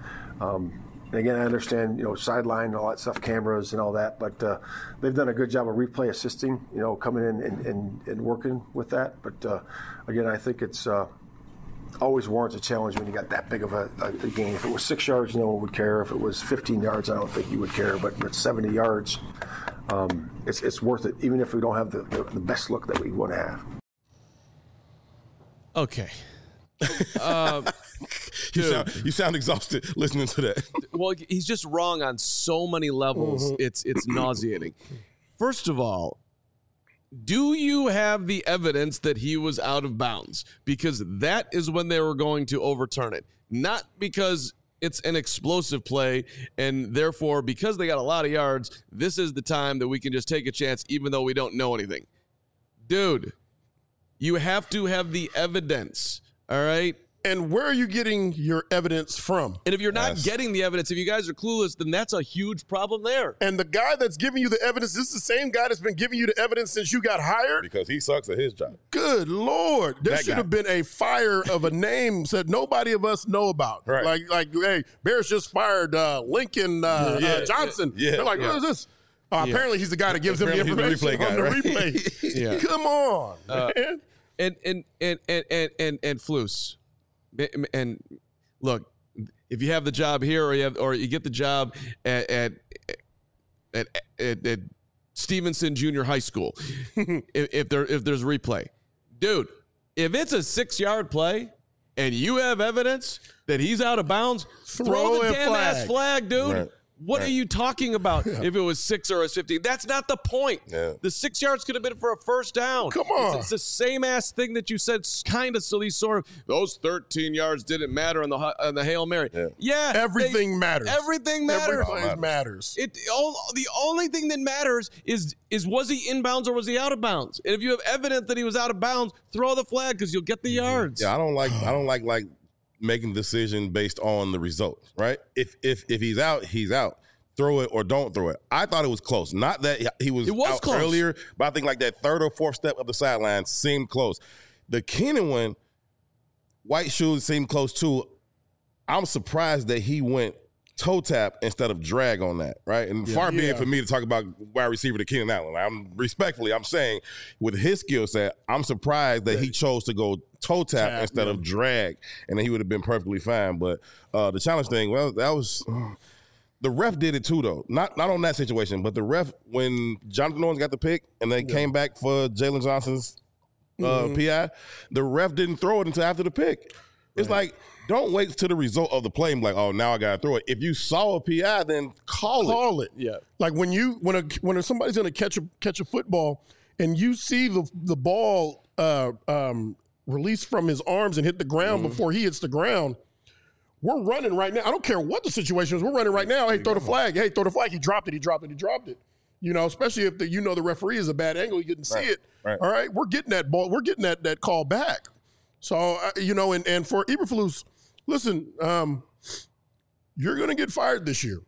And again, I understand, sideline and all that stuff, cameras and all that, but they've done a good job of replay assisting, coming in and working with that. But again, I think it's always warrants a challenge when you got that big of a gain. If it was 6 yards, no one would care. If it was 15 yards, I don't think you would care. But at 70 yards, it's worth it, even if we don't have the best look that we want to have.
Okay.
You sound exhausted listening to that.
Well, he's just wrong on so many levels. Mm-hmm. It's nauseating. First of all, do you have the evidence that he was out of bounds? Because that is when they were going to overturn it. Not because it's an explosive play, and therefore, because they got a lot of yards, this is the time that we can just take a chance even though we don't know anything. Dude, you have to have the evidence. All right.
And where are you getting your evidence from?
And if you're not getting the evidence, if you guys are clueless, then that's a huge problem there.
And the guy that's giving you the evidence, this is the same guy that's been giving you the evidence since you got hired?
Because he sucks at his job.
Good Lord. There should have been a fire of a name that nobody of us know about.
Right.
Like hey, Bears just fired Lincoln Johnson.
Yeah.
They're like, what is this? Apparently he's the guy that gives them the information on the replay. Come on, man.
And Flus. And look, if you have the job here or you get the job at Stevenson Junior High School, if there's replay, dude, if it's a 6-yard play and you have evidence that he's out of bounds, throw the damn ass flag, dude.
Right.
What are you talking about? If it was 6 or a 15, that's not the point.
Yeah.
The 6 yards could have been for a first down.
Come on.
It's the same ass thing that you said, kind of silly sort of. Those 13 yards didn't matter on the Hail Mary. Yeah.
Everything matters.
Everything matters.
Everything matters.
The only thing that matters is was he in bounds or was he out of bounds? And if you have evidence that he was out of bounds, throw the flag because you'll get the yards.
Yeah, I don't like making a decision based on the result, right? If he's out, he's out. Throw it or don't throw it. I thought it was close. Not that he was out
close
earlier, but I think like that third or fourth step of the sideline seemed close. The Keenan one, white shoes seemed close too. I'm surprised that he went toe tap instead of drag on that, right? And far be it for me to talk about wide receiver to Keenan Allen. I'm saying with his skill set, I'm surprised that he chose to go toe tap instead of drag, and then he would have been perfectly fine. But the challenge thing, well, that was the ref did it too, though. Not on that situation, but the ref, when Jonathan Owens got the pick and they came back for Jalen Johnson's PI, the ref didn't throw it until after the pick. It's like, don't wait till the result of the play and be like, oh, now I got to throw it. If you saw a PI, then call it.
Yeah. Like when somebody's going to catch a football and you see the ball release from his arms and hit the ground before he hits the ground, we're running right now. I don't care what the situation is. We're running right now. Hey, throw the flag. Hey, throw the flag. He dropped it. You know, especially if the referee is a bad angle, you didn't see it.
Right.
All right, we're getting that ball. We're getting that call back. So, and for Eberflus, listen, you're going to get fired this year,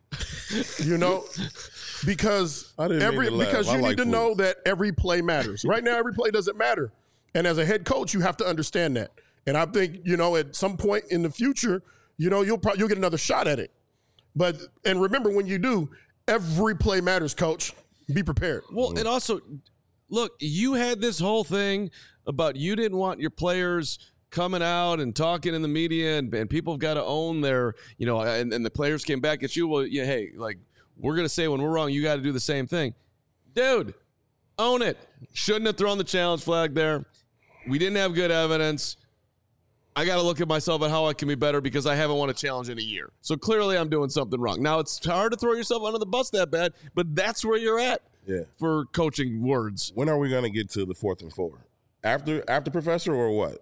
because you need to know that every play matters. Right now, every play doesn't matter. And as a head coach, you have to understand that. And I think, at some point in the future, you'll get another shot at it. And remember, when you do, every play matters, coach. Be prepared.
Well, and also, look, you had this whole thing about you didn't want your players coming out and talking in the media, and people have got to own their, and the players came back at you. Well, yeah, hey, like, we're going to say when we're wrong, you got to do the same thing. Dude, own it. Shouldn't have thrown the challenge flag there. We didn't have good evidence. I got to look at myself at how I can be better because I haven't won a challenge in a year. So clearly I'm doing something wrong. Now, it's hard to throw yourself under the bus that bad, but that's where you're at for coaching words.
When are we going to get to the 4th and 4? After Professor or what?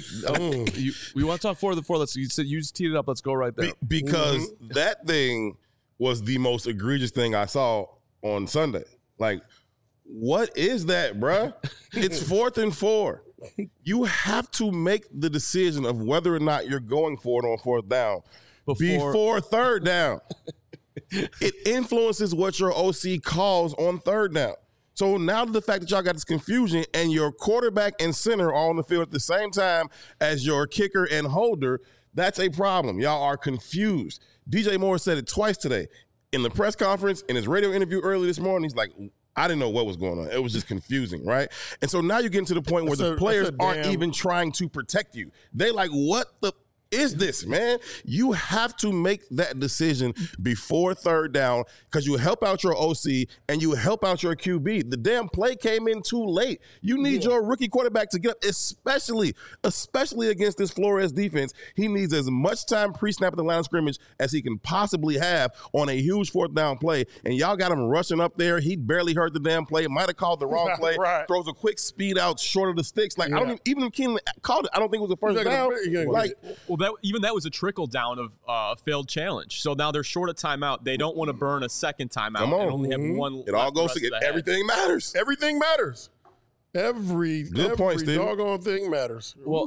We want to talk 4th and 4. You just teed it up. Let's go right there.
Because that thing was the most egregious thing I saw on Sunday. Like, what is that, bruh? It's 4th and 4. You have to make the decision of whether or not you're going for it on 4th down before 3rd down. It influences what your OC calls on 3rd down. So now the fact that y'all got this confusion and your quarterback and center are on the field at the same time as your kicker and holder, that's a problem. Y'all are confused. DJ Moore said it twice today. In the press conference, in his radio interview early this morning, he's like, I didn't know what was going on. It was just confusing, right? And so now you're getting to the point where the players aren't even trying to protect you. They like, what the is this, man? You have to make that decision before 3rd down because you help out your OC and you help out your QB. The damn play came in too late. You need your rookie quarterback to get up, especially against this Flores defense. He needs as much time pre-snap at the line of scrimmage as he can possibly have on a huge 4th down play. And y'all got him rushing up there. He barely heard the damn play. Might have called the wrong play.
Right.
Throws a quick speed out short of the sticks. Like, I don't even if Keenan called it, I don't think it was a first down.
That was a trickle down of a failed challenge. So now they're short of timeout. They don't want to burn a second timeout and only have one.
It all goes together. Everything matters.
Everything matters. Every doggone thing matters.
Well,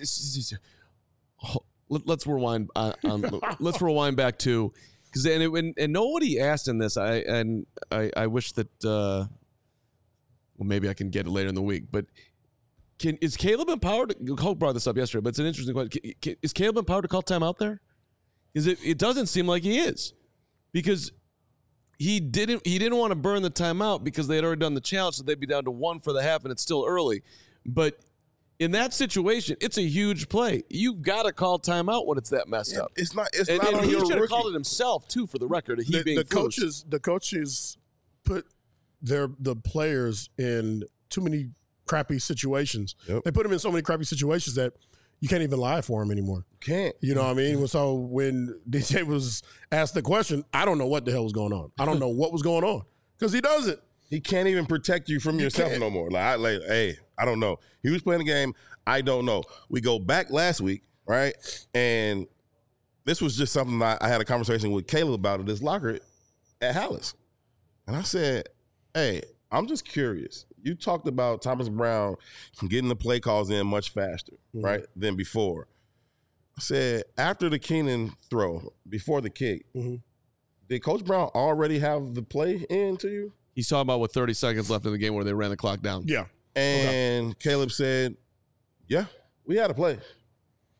let's rewind. Let's rewind back to because and nobody asked in this. I wish that. Well, maybe I can get it later in the week, but. Is Caleb empowered? Hulk brought this up yesterday, but it's an interesting question. Is Caleb empowered to call timeout there? Because it doesn't seem like he is, because he didn't want to burn the timeout because they had already done the challenge, so they'd be down to 1 for the half, and it's still early. But in that situation, it's a huge play. You've got to call timeout when it's that messed up.
It's not. It's
and
not.
He should have called it himself too, for the record.
The coaches put the players in too many crappy situations. Yep. They put him in so many crappy situations that you can't even lie for him anymore.
Can't.
You know what I mean? So when DJ was asked the question, I don't know what the hell was going on. I don't know what was going on because he doesn't.
He can't even protect you from yourself no more. Hey, I don't know. He was playing the game. I don't know. We go back last week, right? And this was just something I had a conversation with Caleb about at his locker at Hallis. And I said, hey, I'm just curious. You talked about Thomas Brown getting the play calls in much faster, right, than before. I said, after the Keenan throw, before the kick, did Coach Brown already have the play in to you?
He's talking about with 30 seconds left in the game where they ran the clock down.
Yeah.
And Caleb said, yeah, we had a play.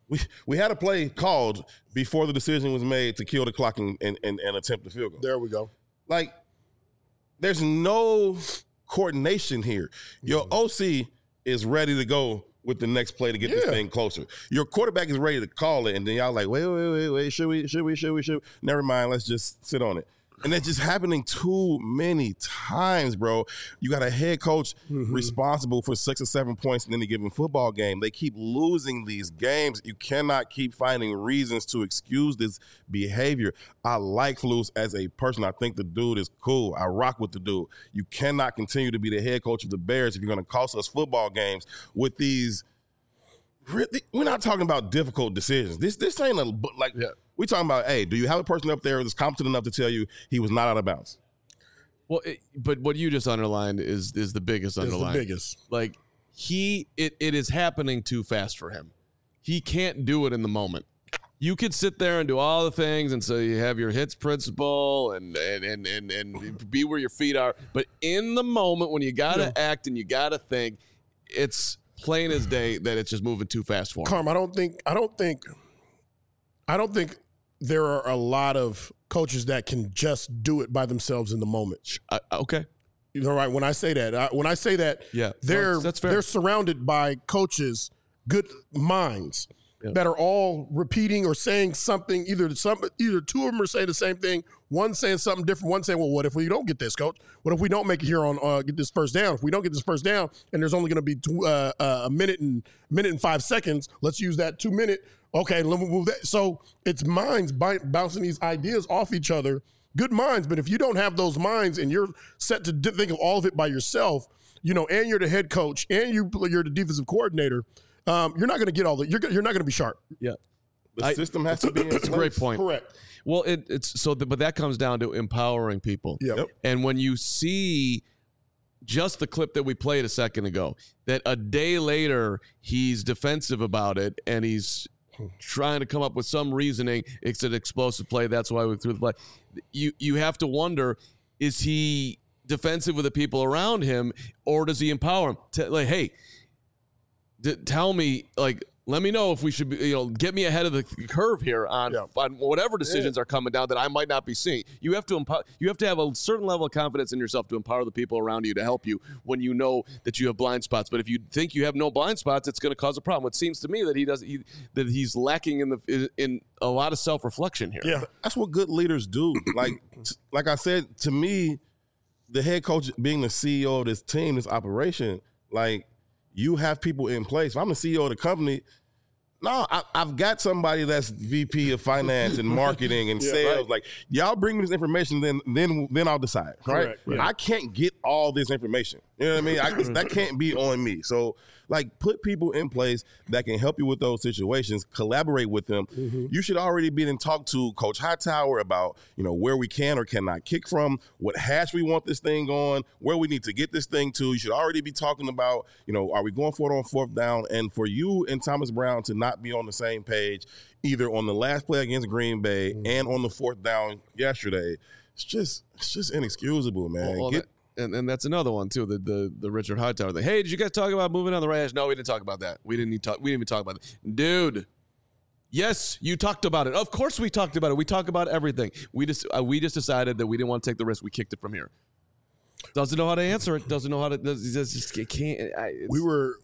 We had a play called before the decision was made to kill the clock and attempt the field goal.
There we go.
Like, there's no coordination here. Your OC is ready to go with the next play to get this thing closer. Your quarterback is ready to call it, and then y'all like, wait, should we? Never mind, let's just sit on it. And it's just happening too many times, bro. You got a head coach responsible for 6 or 7 points in any given football game. They keep losing these games. You cannot keep finding reasons to excuse this behavior. I like Flus as a person. I think the dude is cool. I rock with the dude. You cannot continue to be the head coach of the Bears if you're going to cost us football games with these. Really, we're not talking about difficult decisions. This ain't we're talking about, hey, do you have a person up there that's competent enough to tell you he was not out of bounds?
Well, but what you just underlined is the biggest underline.
It's the biggest.
Like, it is happening too fast for him. He can't do it in the moment. You could sit there and do all the things, and so you have your hits principle and be where your feet are. But in the moment when you got to act and you got to think, it's plain as day that it's just moving too fast for him.
Carm, I don't think there are a lot of coaches that can just do it by themselves in the moment.
Okay.
You know, right? When I say that, that's fair. They're surrounded by coaches, good minds that are all repeating or saying something. Either two of them are saying the same thing. One saying something different. One saying, "Well, what if we don't get this, coach? What if we don't make it here on get this first down? If we don't get this first down, and there's only going to be a minute and 5 seconds, let's use that 2 minute." Okay, let me move that. So it's minds bouncing these ideas off each other. Good minds, but if you don't have those minds and you're set to think of all of it by yourself, and you're the head coach and you're the defensive coordinator, you're not going to get all that. You're not going to be sharp.
Yeah,
the system has to be in place.
That's a great point.
Correct.
Well, but that comes down to empowering people.
Yep.
And when you see just the clip that we played a second ago, that a day later he's defensive about it and he's trying to come up with some reasoning. It's an explosive play. That's why we threw the play. You have to wonder, is he defensive with the people around him, or does he empower them? Hey, tell me, let me know if we should be, get me ahead of the curve here on whatever decisions are coming down that I might not be seeing. You have to have a certain level of confidence in yourself to empower the people around you to help you when you know that you have blind spots. But if you think you have no blind spots, it's going to cause a problem. It seems to me that he's lacking in a lot of self-reflection here.
Yeah, that's what good leaders do. Like I said, to me, the head coach being the CEO of this team, this operation, you have people in place. If I'm the CEO of the company, I've got somebody that's VP of finance and marketing and sales. Right. Y'all bring me this information, then I'll decide. Right? Yeah. I can't get all this information. You know what I mean? That can't be on me. So, put people in place that can help you with those situations, collaborate with them. Mm-hmm. You should already be in talk to Coach Hightower about, where we can or cannot kick from, what hash we want this thing on, where we need to get this thing to. You should already be talking about, are we going for it on fourth down? And for you and Thomas Brown to not be on the same page, either on the last play against Green Bay and on the fourth down yesterday, it's just inexcusable, man.
Well, and that's another one too. The Richard Hightower thing. Hey, did you guys talk about moving on the right hash? No, we didn't talk about that. We didn't even talk about it, dude. Yes, you talked about it. Of course, we talked about it. We talk about everything. We just decided that we didn't want to take the risk. We kicked it from here. Doesn't know how to answer it. Doesn't know how to. Just can't.
We were.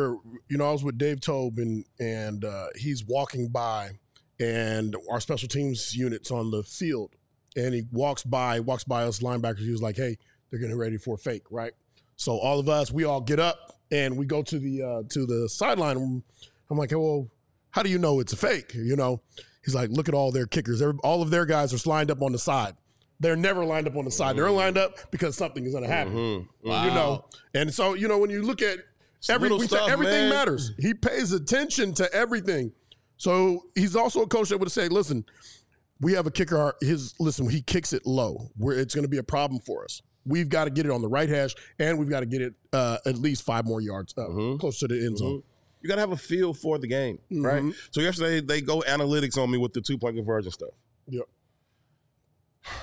I was with Dave Tobe and he's walking by, and our special teams unit's on the field, and he walks by us linebackers. He was like, "Hey, they're getting ready for a fake, right?" So all of us, we all get up and we go to the sideline. I'm like, "Hey, well, how do you know it's a fake?" He's like, "Look at all their kickers. All of their guys are lined up on the side. They're never lined up on the side. They're lined up because something is going to happen."
Mm-hmm. Wow.
And so when you look at everything matters. He pays attention to everything. So he's also a coach that would say, "Listen, we have a kicker. He kicks it low. It's going to be a problem for us. We've got to get it on the right hash, and we've got to get it at least 5 more yards close to the end zone."
You got to have a feel for the game, right? So yesterday they go analytics on me with the 2-point conversion stuff.
Yep.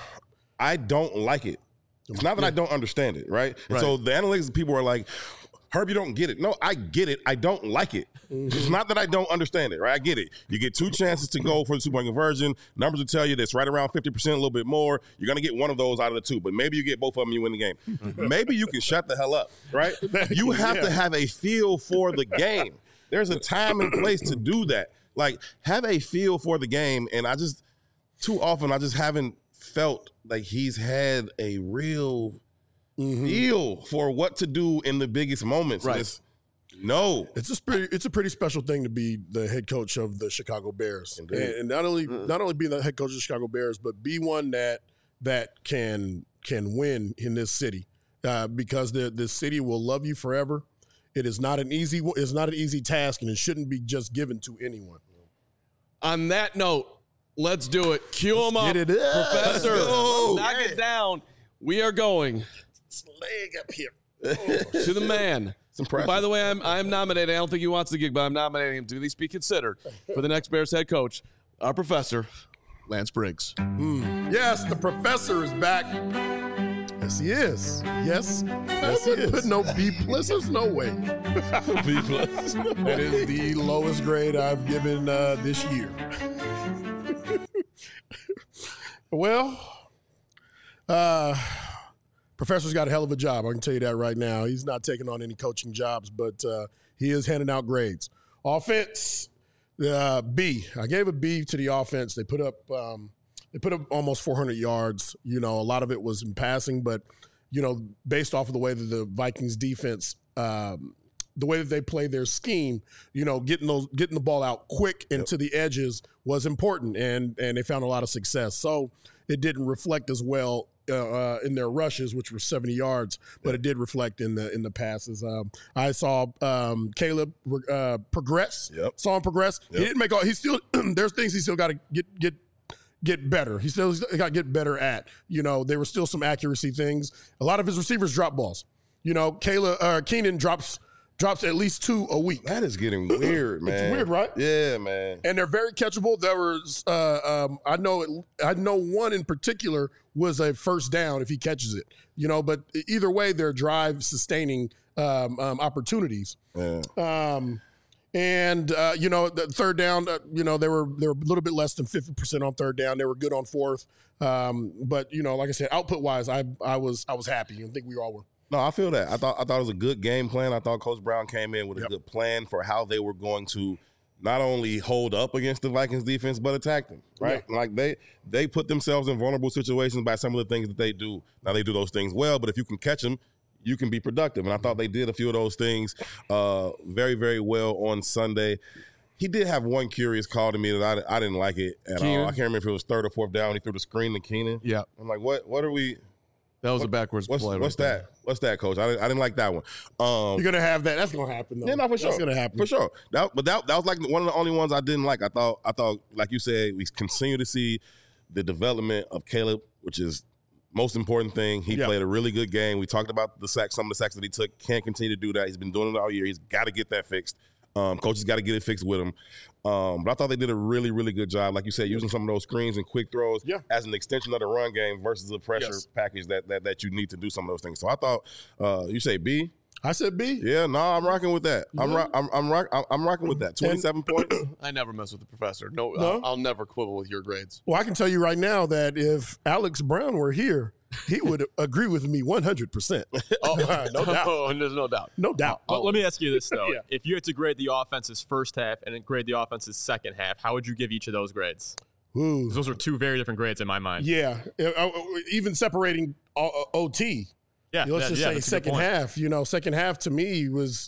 I don't like it. It's not that I don't understand it, right? And so the analytics people are like, Herb, you don't get it. No, I get it. I don't like it. It's not that I don't understand it, right? I get it. You get 2 chances to go for the 2-point conversion. Numbers will tell you that's right around 50%, a little bit more. You're going to get one of those out of the 2, but maybe you get both of them and you win the game. Maybe you can shut the hell up, right? You have to have a feel for the game. There's a time and place to do that. Like, have a feel for the game, and too often I just haven't felt like he's had a real feel for what to do in the biggest moments.
Right.
It's a pretty special thing to be the head coach of the Chicago Bears, and not only be the head coach of the Chicago Bears, but be one that can win in this city, because the city will love you forever. It is not an easy task, and it shouldn't be just given to anyone.
On that note, let's do it. Cue him up,
get it up.
Professor. Knock it down. We are going
Leg up here
to the man.
Impressive.
By the way, I'm nominating. I don't think he wants the gig, but I'm nominating him to at least be considered for the next Bears head coach, our professor, Lance Briggs.
Yes, the professor is back. Yes, he is. Yes, he is. Put no B+. There's no way.
B+.
That is the lowest grade I've given this year. Well, Professor's got a hell of a job. I can tell you that right now. He's not taking on any coaching jobs, but he is handing out grades. Offense, B. I gave a B to the offense. They put up almost 400 yards. You know, a lot of it was in passing, but you know, based off of the way that the Vikings defense, the way that they play their scheme, you know, getting the ball out quick and to the edges was important, and they found a lot of success. So it didn't reflect as well in their rushes, which were 70 yards, but it did reflect in the passes. I saw Caleb progress. Saw him progress. He didn't make all. He still there's things he still got to get better. He still got to get better at. You know, there were still some accuracy things. A lot of his receivers drop balls. You know, Keenan drops at least 2 a week.
That is getting weird, man.
It's weird, right?
Yeah, man.
And they're very catchable. There was, I know one in particular was a first down if he catches it. You know, but either way, they're drive-sustaining opportunities.
Yeah.
You know, the third down, you know, they were a little bit less than 50% on third down. They were good on fourth. But you know, like I said, output-wise, I was happy. I think we all were.
No, I feel that. I thought it was a good game plan. I thought Coach Brown came in with a good plan for how they were going to not only hold up against the Vikings defense, but attack them, right?
Yeah.
Like they put themselves in vulnerable situations by some of the things that they do. Now, they do those things well, but if you can catch them, you can be productive. And I thought they did a few of those things very, very well on Sunday. He did have one curious call to me that I didn't like it at all. I can't remember if it was third or fourth down. He threw the screen to Keenan.
Yeah.
I'm like, what are we –
that was a backwards play.
What's that? What's that, Coach? I didn't like that one.
You're gonna have that. That's gonna happen, though.
Yeah, no, for sure.
That's gonna happen
for sure. That was like one of the only ones I didn't like. I thought, like you said, we continue to see the development of Caleb, which is most important thing. He played a really good game. We talked about some of the sacks that he took. Can't continue to do that. He's been doing it all year. He's got to get that fixed. Coach has got to get it fixed with him. But I thought they did a really, really good job, like you said, using some of those screens and quick throws as an extension of the run game versus the pressure package that you need to do some of those things. So I thought, you say B?
I said B.
Yeah, no, I'm rocking with that. I'm rocking with that. 27 points.
I never mess with the professor. No. I'll never quibble with your grades.
Well, I can tell you right now that if Alex Brown were here, he would agree with me 100%.
Oh,
no doubt.
There's no doubt.
No doubt.
But let me ask you this, though. If you had to grade the offense's first half and then grade the offense's second half, how would you give each of those grades?
Ooh.
Those are 2 very different grades in my mind.
Yeah. Even separating OT.
Yeah.
Let's just say second half. You know, second half to me was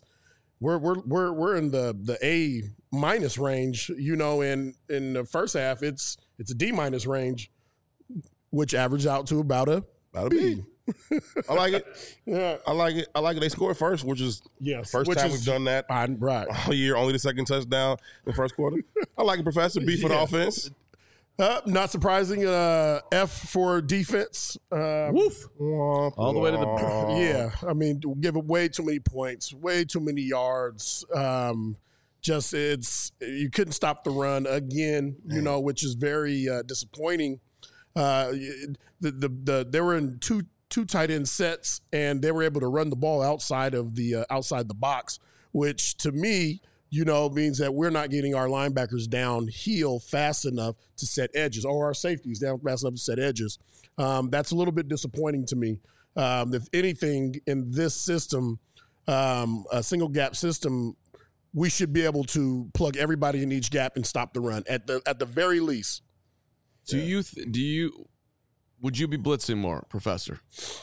we're in the A- range, you know, and in the first half it's a D- range, which averaged out to about a B.
I like it.
Yeah.
I like it. They scored first, which is first time we've done that
right
all year. Only the second touchdown in the first quarter. I like it, Professor. B for the offense.
Not surprising. F for defense.
Woof. All the way to the
Yeah. I mean, give it way too many points, way too many yards. You couldn't stop the run again, you know, which is very disappointing. They were in 2 tight end sets, and they were able to run the ball outside the box, which to me, means that we're not getting our linebackers downhill fast enough to set edges, or our safeties down fast enough to set edges. That's a little bit disappointing to me. If anything, in this system, a single gap system, we should be able to plug everybody in each gap and stop the run at the very least.
Would you be blitzing more, Professor?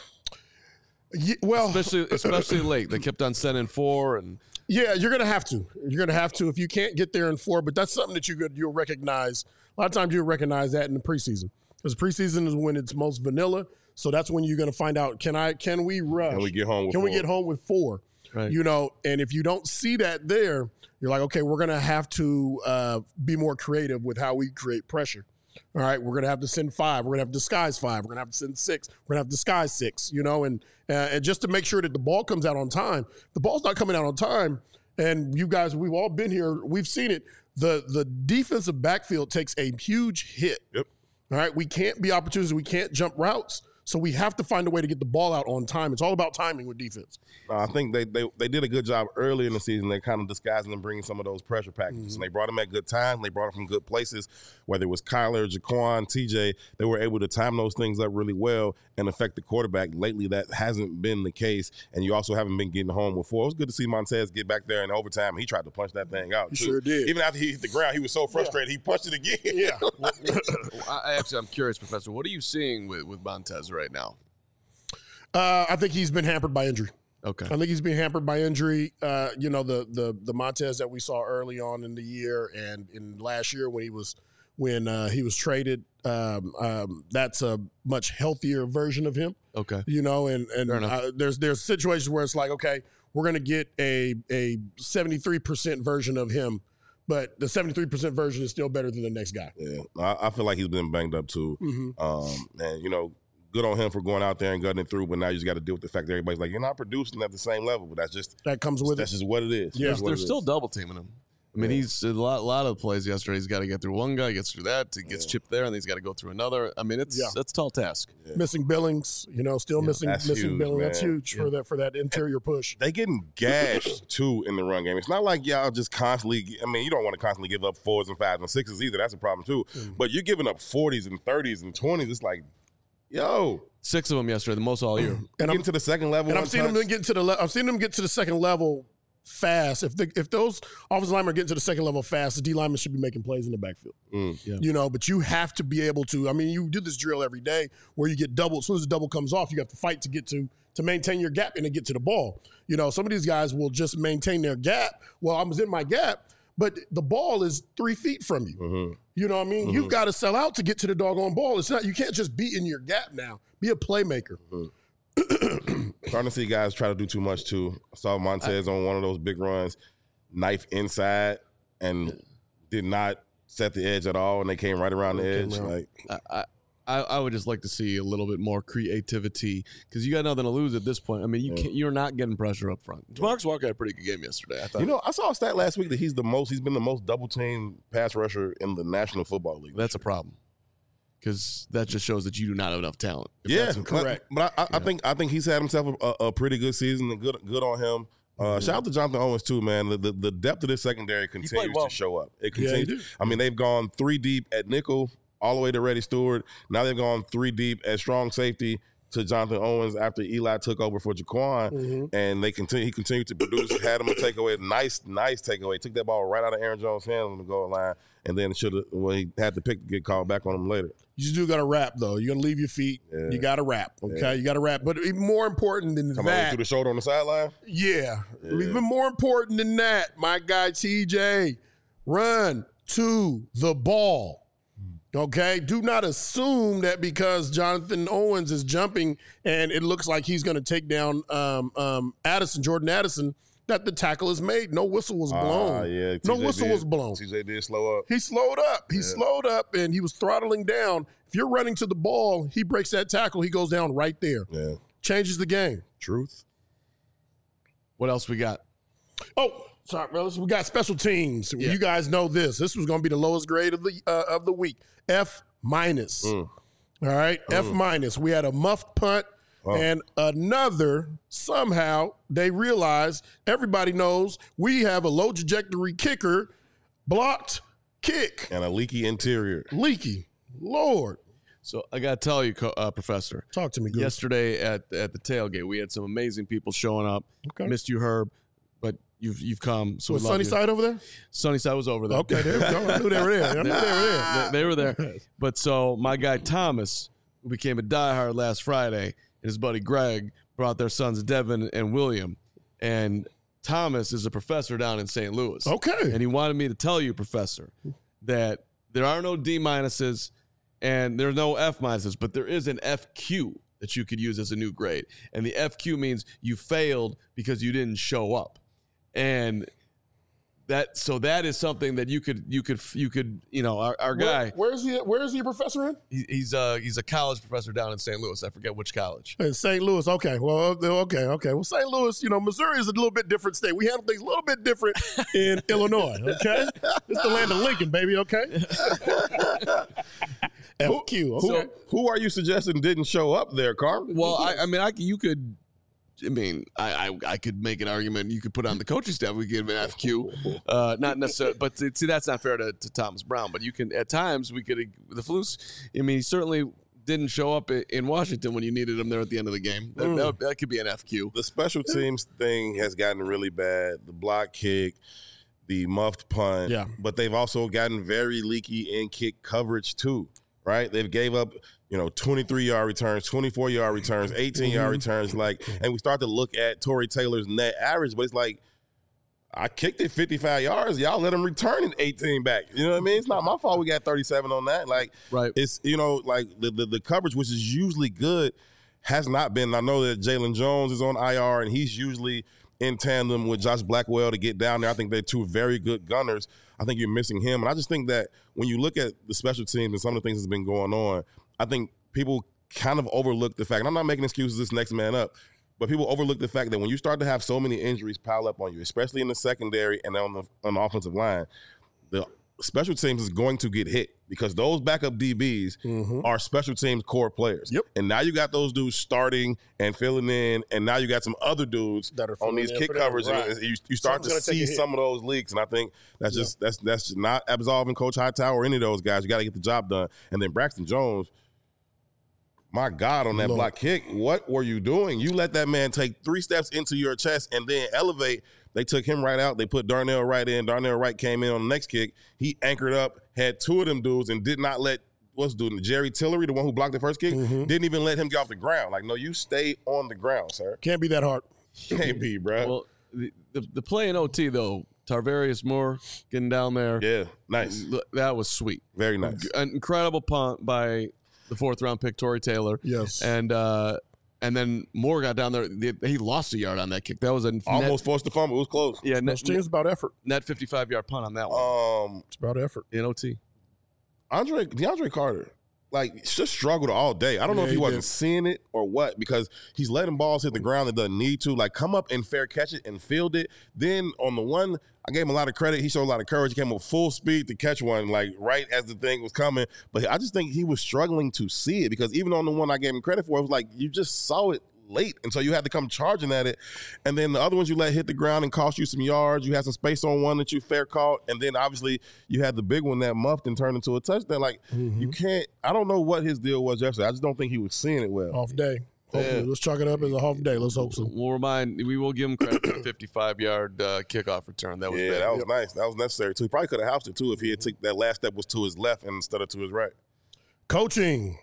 Yeah, well,
especially late. They kept on sending 4 and.
Yeah, you're gonna have to. You're gonna have to if you can't get there in 4. But that's something that you'll recognize. A lot of times you'll recognize that in the preseason, because preseason is when it's most vanilla. So that's when you're gonna find out, can we rush?
Can we get home with 4?
We get home with 4?
Right.
And if you don't see that there, you're like, okay, we're gonna have to be more creative with how we create pressure. All right, we're gonna have to send 5. We're gonna have to disguise 5. We're gonna have to send 6. We're gonna have to disguise 6. And just to make sure that the ball comes out on time. The ball's not coming out on time, and you guys, we've all been here. We've seen it. The defensive backfield takes a huge hit.
Yep.
All right, we can't be opportunities. We can't jump routes. So we have to find a way to get the ball out on time. It's all about timing with defense.
I think they did a good job early in the season. They're kind of disguising and bringing some of those pressure packages. And they brought them at good times. They brought them from good places, whether it was Kyler, Jaquan, TJ. They were able to time those things up really well and affect the quarterback. Lately, that hasn't been the case. And you also haven't been getting home with 4. It was good to see Montez get back there in overtime. He tried to punch that thing out,
He
too.
sure did.
Even after he hit the ground, he was so frustrated, he punched it again.
Yeah.
I'm curious, Professor. What are you seeing with Montez right now?
I think he's been hampered by injury.
Okay.
I think he's been hampered by injury. The Montez that we saw early on in the year and in last year when he was traded, that's a much healthier version of him.
Okay.
There's situations where it's like, okay, we're going to get a 73% version of him, but the 73% version is still better than the next guy.
Yeah, I feel like he's been banged up too. And good on him for going out there and gutting it through. But now you just got to deal with the fact that everybody's like, you're not producing at the same level. But
that comes with
that's
it.
just what it is.
Yeah,
they're still double teaming him. I mean, he's a lot of plays yesterday. He's got to get through one guy, gets through that, gets chipped there, and then he's got to go through another. I mean, it's a tall task.
Yeah. Missing Billings, missing
huge,
Billings.
Man.
That's huge for that interior push.
They getting gashed too in the run game. It's not like y'all just constantly. I mean, you don't want to constantly give up 4s and 5s and 6s either. That's a problem too. But you're giving up 40s and 30s and 20s. It's like, yo.
6 of them yesterday, the most all year.
And getting to the second level.
And I've seen them get to the second level fast. If those offensive linemen are getting to the second level fast, the D linemen should be making plays in the backfield. But you have to be able to. I mean, you do this drill every day where you get double. As soon as the double comes off, you have to fight to get to maintain your gap and to get to the ball. Some of these guys will just maintain their gap. Well, I was in my gap, but the ball is 3 feet from you.
Mm-hmm.
You know what I mean? You've got to sell out to get to the doggone ball. It's not. You can't just be in your gap now. Be a playmaker.
Starting to see guys try to do too much too. I saw Montez on one of those big runs, knife inside, and did not set the edge at all, and they came right around the edge.
I would just like to see a little bit more creativity because you got nothing to lose at this point. I mean, you're not getting pressure up front. Demarcus Walker had a pretty good game yesterday. I thought.
I saw a stat last week that he's been the most double team pass rusher in the National Football League.
That's a problem because that just shows that you do not have enough talent.
Yeah,
that's correct.
But I think he's had himself a pretty good season and good on him. Shout out to Jonathan Owens too, man. The depth of this secondary continues to show up. It continues. I mean, they've gone 3 deep at nickel all the way to Reddy Stewart. Now they've gone 3 deep at strong safety to Jonathan Owens after Eli took over for Jaquan, and he continued to produce. Had him a takeaway, nice takeaway. Took that ball right out of Aaron Jones' hands on the goal line, and then he had the pick to get called back on him later.
You do got to wrap though. You're gonna leave your feet. Yeah. You got to wrap. Okay, you got to wrap. But even more important than that,
through the shoulder on the sideline.
Yeah, even more important than that, my guy TJ, run to the ball. Okay, do not assume that because Jonathan Owens is jumping and it looks like he's going to take down Jordan Addison, that the tackle is made. No whistle was blown. No whistle was blown.
TJ did slow up.
He slowed up. He slowed up and he was throttling down. If you're running to the ball, he breaks that tackle. He goes down right there.
Yeah,
changes the game.
Truth.
What else we got?
Oh, sorry, brothers. We got special teams. Yeah. You guys know this. This was going to be the lowest grade of the week. F-. All right, F-. We had a muffed punt And another, somehow, they realize, everybody knows, we have a low trajectory kicker, blocked kick.
And a leaky interior.
Leaky. Lord.
So I got to tell you, Professor.
Talk to me, Goose.
Yesterday at the tailgate, we had some amazing people showing up.
Okay.
Missed you, Herb, but you've come. So
was Sunnyside over there?
Sunnyside was over there.
Okay, there we go. I knew they were there.
They were there. But so my guy Thomas, who became a diehard last Friday, and his buddy Greg brought their sons Devin and William. And Thomas is a professor down in St. Louis.
Okay.
And he wanted me to tell you, Professor, that there are no D minuses and there are no F minuses, but there is an FQ that you could use as a new grade. And the FQ means you failed because you didn't show up. And that is something that you could our guy.
Where is he a professor in?
He's a college professor down in St. Louis. I forget which college.
In St. Louis. Okay. Well, okay. Well, St. Louis, Missouri is a little bit different state. We handle things a little bit different in Illinois. Okay. It's the land of Lincoln, baby. Okay. FQ. Okay.
Who are you suggesting didn't show up there, Carl?
Well, I could make an argument. You could put on the coaching staff. We give an FQ, not necessarily. But see, that's not fair to Thomas Brown. But you can at times the Flus. He certainly didn't show up in Washington when you needed him there at the end of the game. That could be an FQ.
The special teams thing has gotten really bad. The block kick, the muffed punt.
Yeah.
But they've also gotten very leaky in kick coverage too. Right? They've gave up 23-yard returns, 24-yard returns, 18-yard returns, and we start to look at Tory Taylor's net average, but it's like, I kicked it 55 yards. Y'all let him return it 18 back. You know what I mean? It's not my fault we got 37 on that.
Right.
It's, the coverage, which is usually good, has not been. I know that Jalen Jones is on IR, and he's usually in tandem with Josh Blackwell to get down there. I think they're two very good gunners. I think you're missing him. And I just think that when you look at the special teams and some of the things that's been going on, I think people kind of overlook the fact, and I'm not making excuses this next man up, but people overlook the fact that when you start to have so many injuries pile up on you, especially in the secondary and on the offensive line, the special teams is going to get hit because those backup DBs are special teams core players.
Yep.
And now you got those dudes starting and filling in, and now you got some other dudes
that are
on these kick covers,
right.
and you start to see some of those leaks. And I think that's just not absolving Coach Hightower or any of those guys. You got to get the job done. And then Braxton Jones, my God, on that block kick, what were you doing? You let that man take 3 steps into your chest and then elevate. They took him right out. They put Darnell Wright in. Darnell Wright came in on the next kick. He anchored up, had 2 of them dudes, and did not let Jerry Tillery, the one who blocked the first kick, didn't even let him get off the ground. No, you stay on the ground, sir.
Can't be that hard.
Can't be, bro.
Well, the play in OT, though, Tarvarius Moore getting down there.
Yeah, nice.
That was sweet.
Very nice.
An incredible punt by the 4th-round pick, Tory Taylor.
Yes.
And then Moore got down there. He lost a yard on that kick. That was
almost forced the fumble. It was close.
Yeah,
it's about effort.
Net 55-yard punt on that one.
It's about effort.
In OT.
DeAndre Carter, just struggled all day. I don't know if he wasn't seeing it or what, because he's letting balls hit the ground that doesn't need to. Come up and fair catch it and field it. Then on the one, I gave him a lot of credit. He showed a lot of courage. He came up full speed to catch one, right as the thing was coming. But I just think he was struggling to see it, because even on the one I gave him credit for, it was you just saw it late, and so you had to come charging at it. And then the other ones you let hit the ground and cost you some yards. You had some space on one that you fair caught, and then obviously you had the big one that muffed and turned into a touchdown. You can't. I don't know what his deal was yesterday. I just don't think he was seeing it well.
Off day. Hopefully, let's chalk it up as a half day. Let's hope so.
We will give him credit for the 55-yard kickoff return. That was bad.
That was nice. That was necessary too. He probably could have housed it too if he had took that last step was to his left instead of to his right.
Coaching.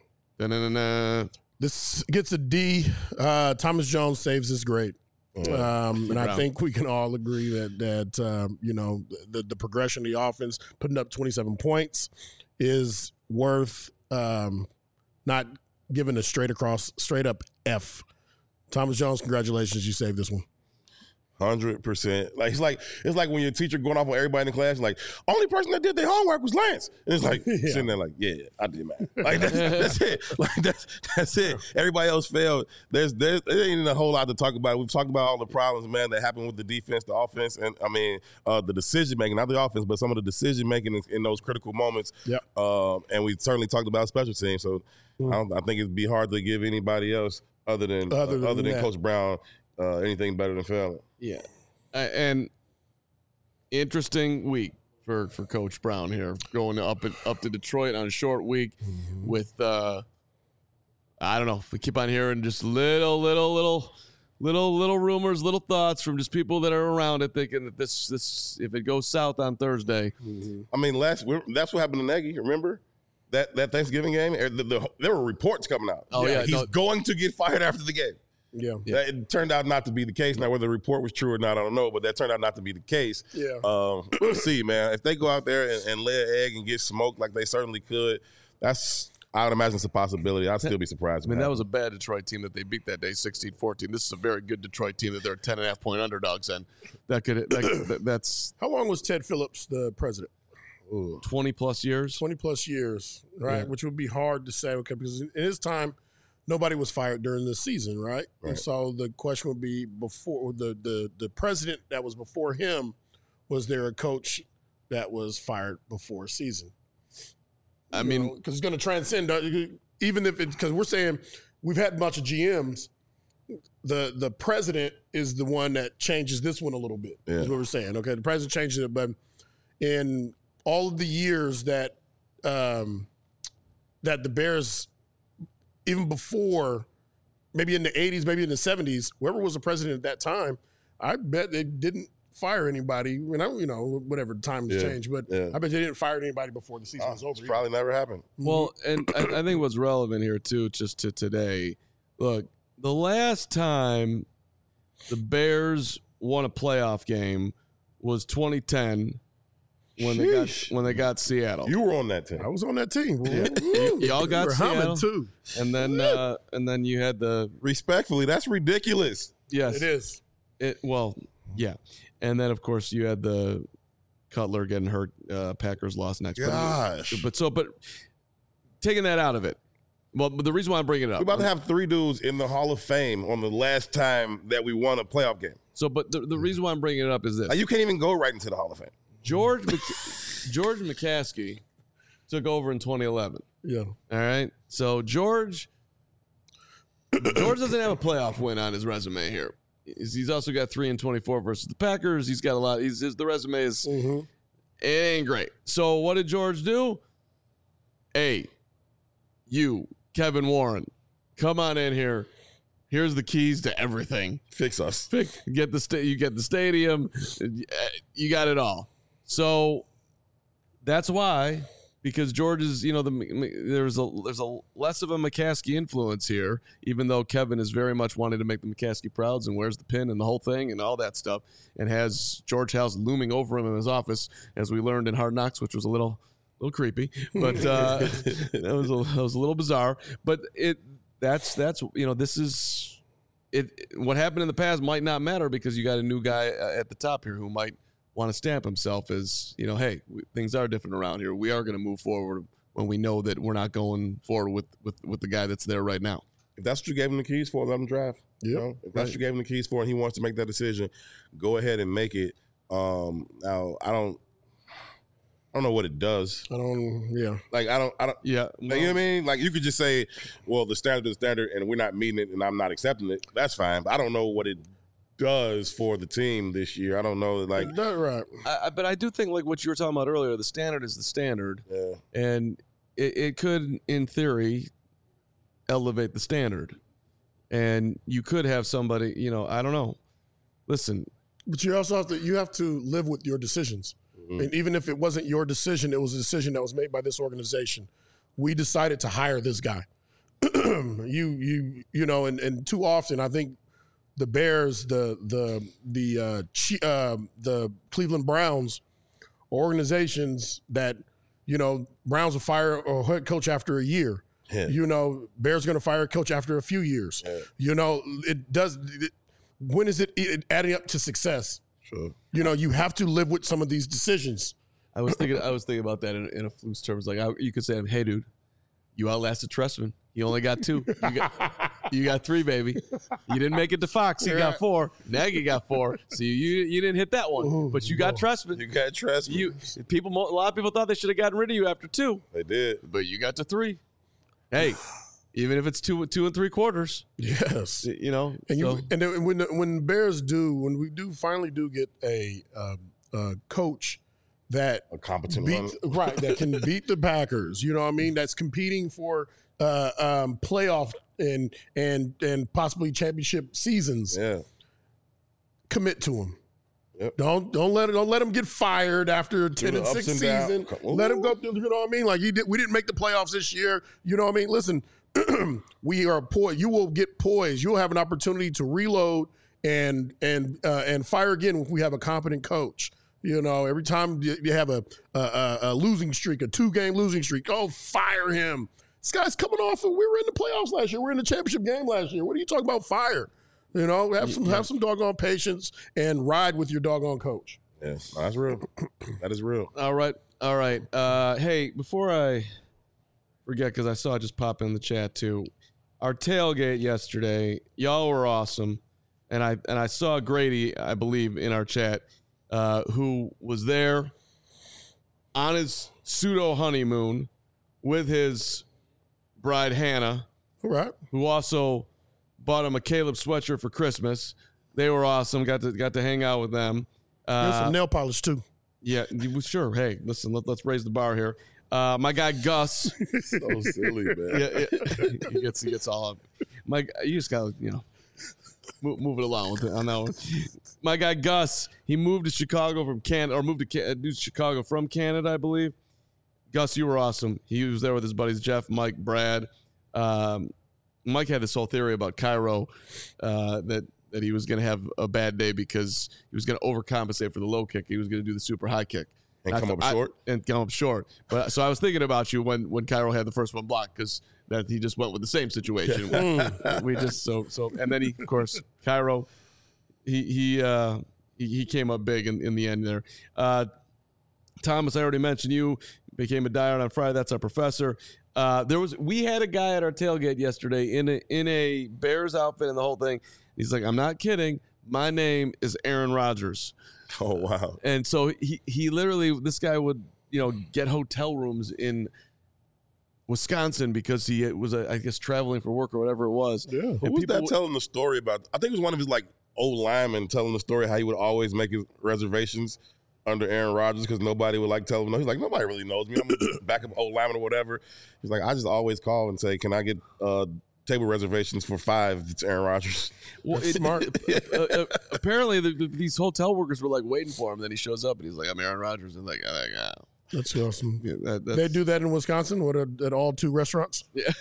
This gets a D. Thomas Jones saves his grade. And I think we can all agree that the progression of the offense, putting up 27 points, is worth not giving a straight up F. Thomas Jones, congratulations, you saved this one.
100%. Like it's like when your teacher going off on everybody in the class, like only person that did their homework was Lance. And it's like sitting there like, yeah, I did math. Like that's it. Like that's it. Everybody else failed. There ain't a whole lot to talk about. We've talked about all the problems, man, that happened with the defense, the offense, and I mean the decision making, not the offense, but some of the decision making in those critical moments.
Yep.
And we certainly talked about special teams. So I think it'd be hard to give anybody else other than Coach Brown anything better than Fallon.
Yeah, and interesting week for Coach Brown here, going up to Detroit on a short week with I don't know. We keep on hearing just little rumors, little thoughts from just people that are around it, thinking that this if it goes south on Thursday.
I mean, that's what happened to Nagy. Remember that Thanksgiving game? There were reports coming out.
Oh yeah,
he's going to get fired after the game.
Yeah.
It turned out not to be the case. Now, whether the report was true or not, I don't know, but that turned out not to be the case.
Yeah.
We'll see, man. If they go out there and lay an egg and get smoked like they certainly could, I would imagine it's a possibility. I'd still be surprised.
I mean, that was a bad Detroit team that they beat that day, 16-14. This is a very good Detroit team that they're 10.5-point underdogs in. That's
How long was Ted Phillips the president?
20-plus years.
20-plus years, right?
Yeah.
Which would be hard to say, okay, because in his time, nobody was fired during the season, right? And so the question would be, before the president that was before him, was there a coach that was fired before season?
I mean,
because it's going to transcend, even if it's, because we're saying we've had a bunch of GMs. The president is the one that changes this one a little bit, is what we're saying. Okay, the president changes it, but in all of the years that that the Bears, even before, maybe in the 80s, maybe in the 70s, whoever was the president at that time, I bet they didn't fire anybody. Whatever times changed, but I bet they didn't fire anybody before the season was over.
It's probably never happened.
Well, and I think what's relevant here too, just to today, look, the last time the Bears won a playoff game was 2010 when they got Seattle.
You were on that team.
I was on that team.
Y'all got
we
Seattle
too.
And then you had the
Respectfully, that's ridiculous.
yes,
It is.
Yeah, and then of course you had the Cutler getting hurt. Packers lost next.
Gosh.
But taking that out of it. Well, but the reason why I'm bringing it up,
We're about to have 3 dudes in the Hall of Fame on the last time that we won a playoff game.
So, but the reason why I'm bringing it up is this:
Like, you can't even go right into the Hall of Fame.
George McCaskey took over in 2011.
Yeah.
All right, so George doesn't have a playoff win on his resume here. He's also got 3-24 versus the Packers. He's got a lot. The resume is it ain't great. So what did George do? Hey, you, Kevin Warren, come on in here. Here's the keys to everything.
Fix us.
You get the stadium. You got it all. So that's why, because George is, there's a less of a McCaskey influence here, even though Kevin is very much wanting to make the McCaskey prouds and wears the pin and the whole thing and all that stuff, and has George House looming over him in his office, as we learned in Hard Knocks, which was a little creepy, but that was a little bizarre. But this is it. What happened in the past might not matter, because you got a new guy at the top here who might want to stamp himself as, hey, things are different around here. We are going to move forward when we know that we're not going forward with the guy that's there right now.
If that's what you gave him the keys for, let him drive.
Yeah.
If that's what you gave him the keys for and he wants to make that decision, go ahead and make it. Now, I don't know what it does.
Yeah.
Yeah.
Well,
you know what I mean? Like, you could just say, well, the standard is the standard and we're not meeting it and I'm not accepting it. That's fine. But I don't know what it does for the team this year. I don't know. Like,
That's right.
But I do think, like what you were talking about earlier, the standard is the standard.
Yeah.
And it could, in theory, elevate the standard. And you could have somebody, I don't know. Listen.
But you also have to live with your decisions. And even if it wasn't your decision, it was a decision that was made by this organization. We decided to hire this guy. And too often, I think the Bears, the Cleveland Browns, are organizations that, Browns will fire a head coach after a year. Yeah. Bears are going to fire a coach after a few years. Yeah. when is it adding up to success?
Sure.
You know, you have to live with some of these decisions.
I was thinking about that in a loose terms. Like you could say, "Hey, dude, you outlasted Trestman. You only got 2. You got 3, baby. You didn't make it to Fox. You got 4. Nagy got 4. So you didn't hit that one, but you got Trestman.
You got Trestman.
A lot of people thought they should have gotten rid of you after 2.
They did,
but you got to 3. Hey, even if it's 2 3/4.
Yes,
you know.
And then when Bears when we finally get a coach that
a competent
one, that can beat the Packers. You know what I mean? That's competing for playoff and possibly championship seasons.
Yeah,
commit to him.
Yep.
Don't let him get fired after a 10-6 season. Let him go through. You know what I mean? Like we didn't make the playoffs this year. You know what I mean? Listen, we are poised. You will get poised. You'll have an opportunity to reload and fire again if we have a competent coach. You know, every time you have a losing streak, a 2-game losing streak, fire him. This guy's coming off we were in the playoffs last year. We were in the championship game last year. What are you talking about fire? You know, have some doggone patience and ride with your doggone coach.
Yes, that's real. That is real.
All right. Hey, before I forget, because I saw it just pop in the chat too, our tailgate yesterday, y'all were awesome, and I saw Grady, I believe, in our chat, who was there on his pseudo honeymoon with his bride Hannah,
all right,
who also bought him a Caleb sweatshirt for Christmas. They were awesome. Got to hang out with them.
There's some nail polish too.
Yeah, sure. Hey, listen, let's raise the bar here. My guy Gus.
So silly, man.
Yeah. He gets all up. You just gotta, move it along with it on that one. My guy Gus, he moved to Chicago from Canada, or moved to Chicago from Canada, I believe. Gus, you were awesome. He was there with his buddies Jeff, Mike, Brad. Mike had this whole theory about Cairo that he was going to have a bad day because he was going to overcompensate for the low kick. He was going to do the super high kick.
And come up short.
But so I was thinking about you when Cairo had the first one blocked, because that he just went with the same situation. We just so and then he, of course, Cairo, he came up big in the end there. Thomas, I already mentioned you became a diehard on Friday. That's our professor. We had a guy at our tailgate yesterday in a Bears outfit and the whole thing. He's like, I'm not kidding. My name is Aaron Rodgers.
Oh, wow.
And so he literally, this guy would, get hotel rooms in Wisconsin because he was, I guess, traveling for work or whatever it was.
Yeah.
Who was that telling the story about? I think it was one of his old linemen telling the story how he would always make his reservations under Aaron Rodgers because nobody would tell him. He's like, nobody really knows me. I'm a backup old lineman or whatever. He's like, I just always call and say, can I get table reservations for 5? It's Aaron Rodgers.
Well, smart. Apparently, these hotel workers were waiting for him. Then he shows up and he's like, I'm Aaron Rodgers. And
that's awesome. Yeah, they do that in Wisconsin at all 2 restaurants.
Yeah,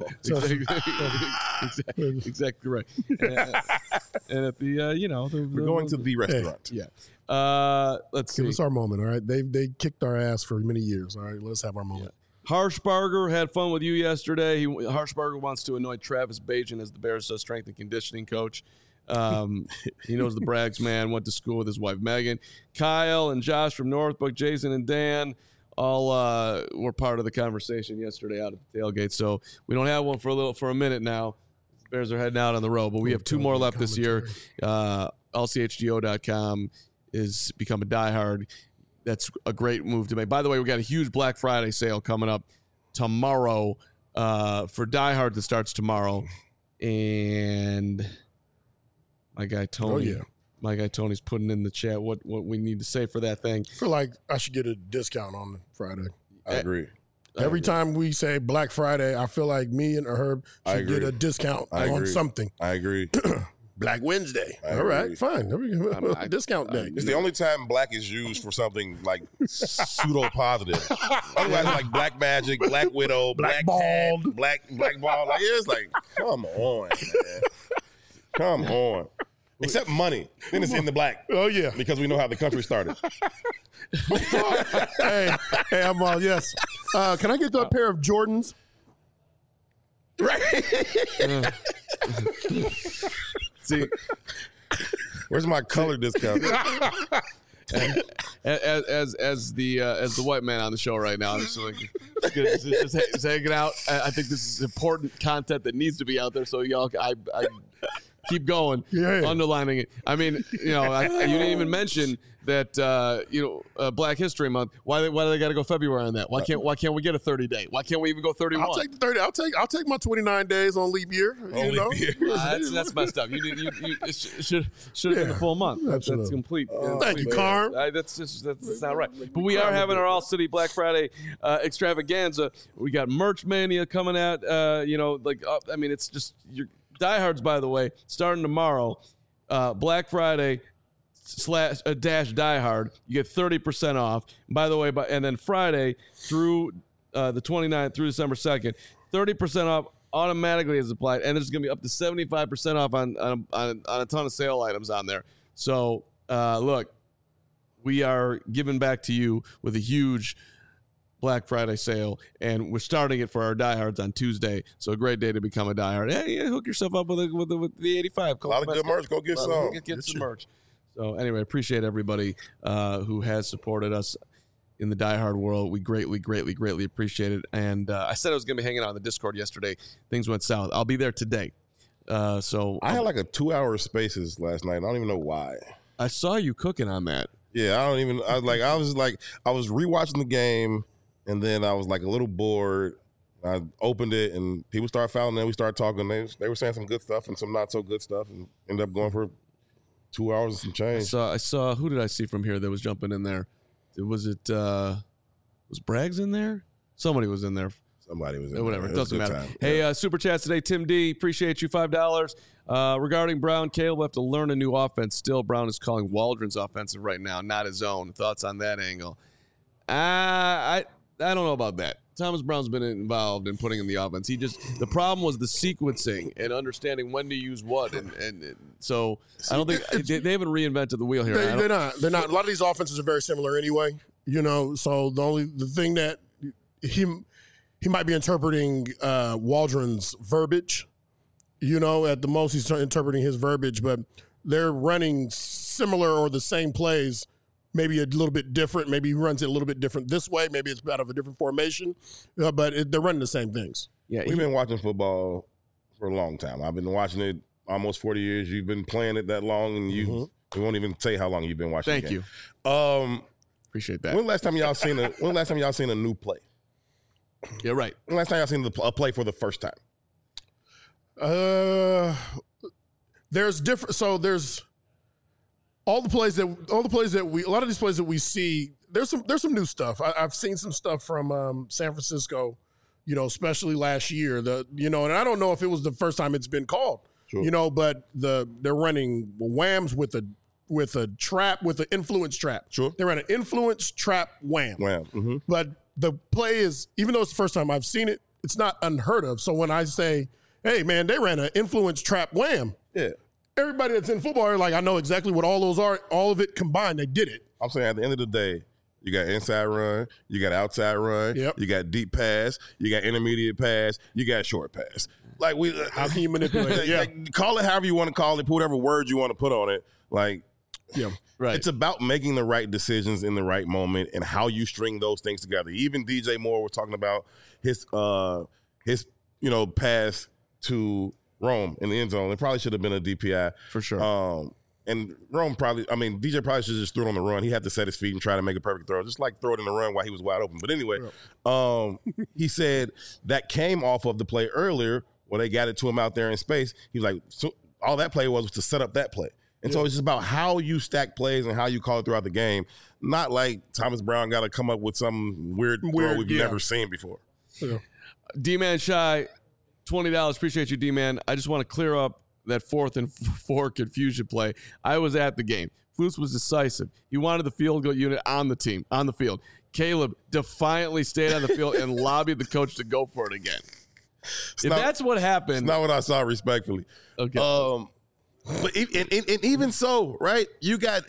exactly right. And at the
we're going to the restaurant.
Yeah. Let's see.
Give us our moment, all right? They kicked our ass for many years. All right, let's have our moment.
Yeah. Harshbarger had fun with you yesterday. Harshbarger wants to anoint Travis Bajan as the Bears' strength and conditioning coach. He knows the Braggs man, went to school with his wife Megan. Kyle and Josh from Northbrook, Jason and Dan all were part of the conversation yesterday out at the tailgate. So we don't have one for a minute now. The Bears are heading out on the road, but we have 2 more left this year. LCHGO.com is become a diehard. That's a great move to make. By the way, we got a huge Black Friday sale coming up tomorrow for diehard that starts tomorrow. And my guy Tony, my guy Tony's putting in the chat what we need to say for that thing.
I feel like I should get a discount on Friday.
I agree.
Every time we say Black Friday, I feel like me and Herb should get a discount on something.
I agree.
Black Wednesday. All right, fine. There we go. Discount day.
It's the only time black is used for something pseudo positive. Otherwise, Black Magic, Black Widow, Black Bald, Black Ball. It's come on, man. Come on. Except money. Then it's in the black.
Oh, yeah.
Because we know how the country started.
Hey, I'm all yes. Can I get a pair of Jordans?
Right.
See,
Where's my color discount?
As the white man on the show right now, I'm just hanging out. I think this is important content that needs to be out there. So y'all, I keep going, underlining it. I mean, you didn't even mention that Black History Month. Why do they got to go February on that? Why can't we get a 30-day? Why can't we even go 31?
I'll take the 30. I'll take my 29 days on leap year.
That's messed up. You should have been the full month. That's complete.
Thank you, Carm.
That's not right. But we are having our All City Black Friday extravaganza. We got Merch Mania coming out. It's just your diehards. By the way, starting tomorrow, Black Friday / Die Hard, you get 30% off. By the way, and then Friday through the 29th through December 2nd, 30% off automatically is applied, and there's going to be up to 75% off on a ton of sale items on there. So look, we are giving back to you with a huge Black Friday sale, and we're starting it for our diehards on Tuesday. So a great day to become a diehard. Hey, hook yourself up with the 85.
A lot of good merch. Go get some.
Get some merch. So anyway, appreciate everybody who has supported us in the diehard world. We greatly, greatly, greatly appreciate it. And I said I was going to be hanging out on the Discord yesterday. Things went south. I'll be there today. So
I had like a 2-hour spaces last night. I don't even know why.
I saw you cooking on that.
Yeah, I was rewatching the game, and then I was like a little bored. I opened it, and people started fouling. Then we started talking. They were saying some good stuff and some not so good stuff, and ended up going for 2 hours and some change.
I saw. Who did I see from here that was jumping in there? Was Braggs in there? Somebody was in there.
Somebody was in there.
Whatever. It doesn't matter.
Time.
Hey, Super Chats today. Tim D, appreciate you. $5. Regarding Brown, Caleb will have to learn a new offense. Still, Brown is calling Waldron's offensive right now, not his own. Thoughts on that angle? I don't know about that. Thomas Brown's been involved in putting in the offense. The problem was the sequencing and understanding when to use what, and so I don't think they haven't reinvented the wheel here.
They're not. A lot of these offenses are very similar anyway. So the thing that he might be interpreting Waldron's verbiage. At the most he's interpreting his verbiage, but they're running similar or the same plays. Maybe a little bit different. Maybe he runs it a little bit different this way. Maybe it's out of a different formation, but they're running the same things.
Yeah, we've been watching football for a long time. I've been watching it almost 40 years. You've been playing it that long, and we won't even say how long you've been watching.
Thank you. Appreciate that.
When last time y'all seen a new play?
Yeah, right.
When last time y'all seen a play for the first time?
There's different. So there's. A lot of these plays that we see, there's some new stuff. I've seen some stuff from San Francisco, especially last year. And I don't know if it was the first time it's been called,
sure.
But they're running whams with an influence trap.
Sure.
They ran an influence trap wham.
Mm-hmm.
But the play is, even though it's the first time I've seen it, it's not unheard of. So when I say, hey man, they ran an influence trap wham.
Yeah.
Everybody that's in football are like, I know exactly what all those are. All of it combined, they did it.
I'm saying at the end of the day, you got inside run, you got outside run, you got deep pass, you got intermediate pass, you got short pass. Like
how can you manipulate it? Yeah,
call it however you want to call it, put whatever word you want to put on it. Like,
right.
It's about making the right decisions in the right moment and how you string those things together. Even DJ Moore was talking about his pass to Rome in the end zone. It probably should have been a DPI.
For sure.
And Rome DJ probably should have just threw it on the run. He had to set his feet and try to make a perfect throw. Just like throw it in the run while he was wide open. But anyway, he said that came off of the play earlier where they got it to him out there in space. He was like, so all that play was to set up that play. And so it's just about how you stack plays and how you call it throughout the game. Not like Thomas Brown got to come up with some weird throw we've never seen before.
Yeah.
D-Man Shy, $20. Appreciate you, D-Man. I just want to clear up that 4th and 4 confusion play. I was at the game. Flus was decisive. He wanted the field goal unit on the field. Caleb defiantly stayed on the field and lobbied the coach to go for it again. That's what happened.
It's not what I saw, respectfully.
Okay.
But even so, right? You got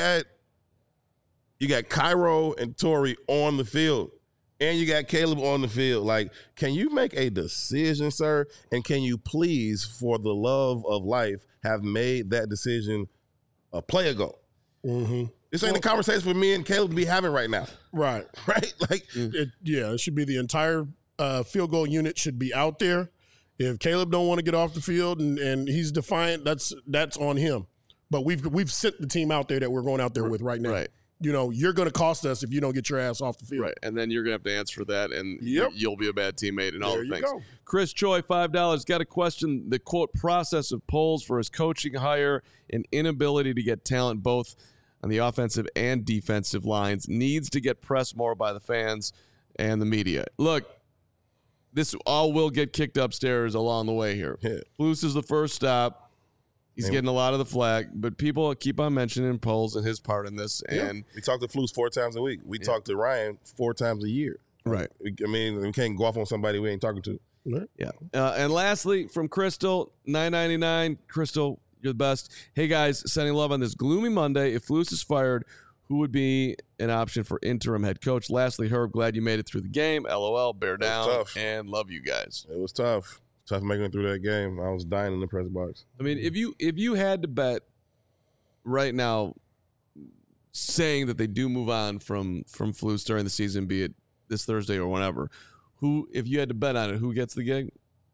Cairo and Torrey on the field. And you got Caleb on the field. Like, can you make a decision, sir? And can you please, for the love of life, have made that decision a play ago.
Mm-hmm.
This ain't the conversation for me and Caleb to be having right now.
Right.
Right? Like,
it should be the entire field goal unit should be out there. If Caleb don't want to get off the field and he's defiant, that's on him. But we've sent the team out there that we're going out there with right now.
Right.
You know, you're going to cost us if you don't get your ass off the field.
Right, and then you're going to have to answer for that, and
Yep.
you'll be a bad teammate and all
There
the
you
things.
go.
Chris Choi, $5, got to question the, quote, process of Poles for his coaching hire and inability to get talent both on the offensive and defensive lines. Needs to get pressed more by the fans and the media. Look, this all will get kicked upstairs along the way here.
Yeah.
Flus is the first stop. He's getting a lot of the flag, but people keep on mentioning Poles and his part in this. And
we talk to Flus 4 times a week. We talk to Ryan 4 times a year.
right.
I mean, we can't go off on somebody we ain't talking to.
Yeah. And lastly, from Crystal, $9.99. Crystal, you're the best. Hey, guys, sending love on this gloomy Monday. If Flus is fired, who would be an option for interim head coach? Lastly, Herb, glad you made it through the game. LOL, bear down,
tough.
and love you guys.
It was tough. Tough making it through that game. I was dying in the press box.
I mean, if you had to bet right now, saying that they do move on from Flus during the season, be it this Thursday or whenever, who, if you had to bet on it, who gets the gig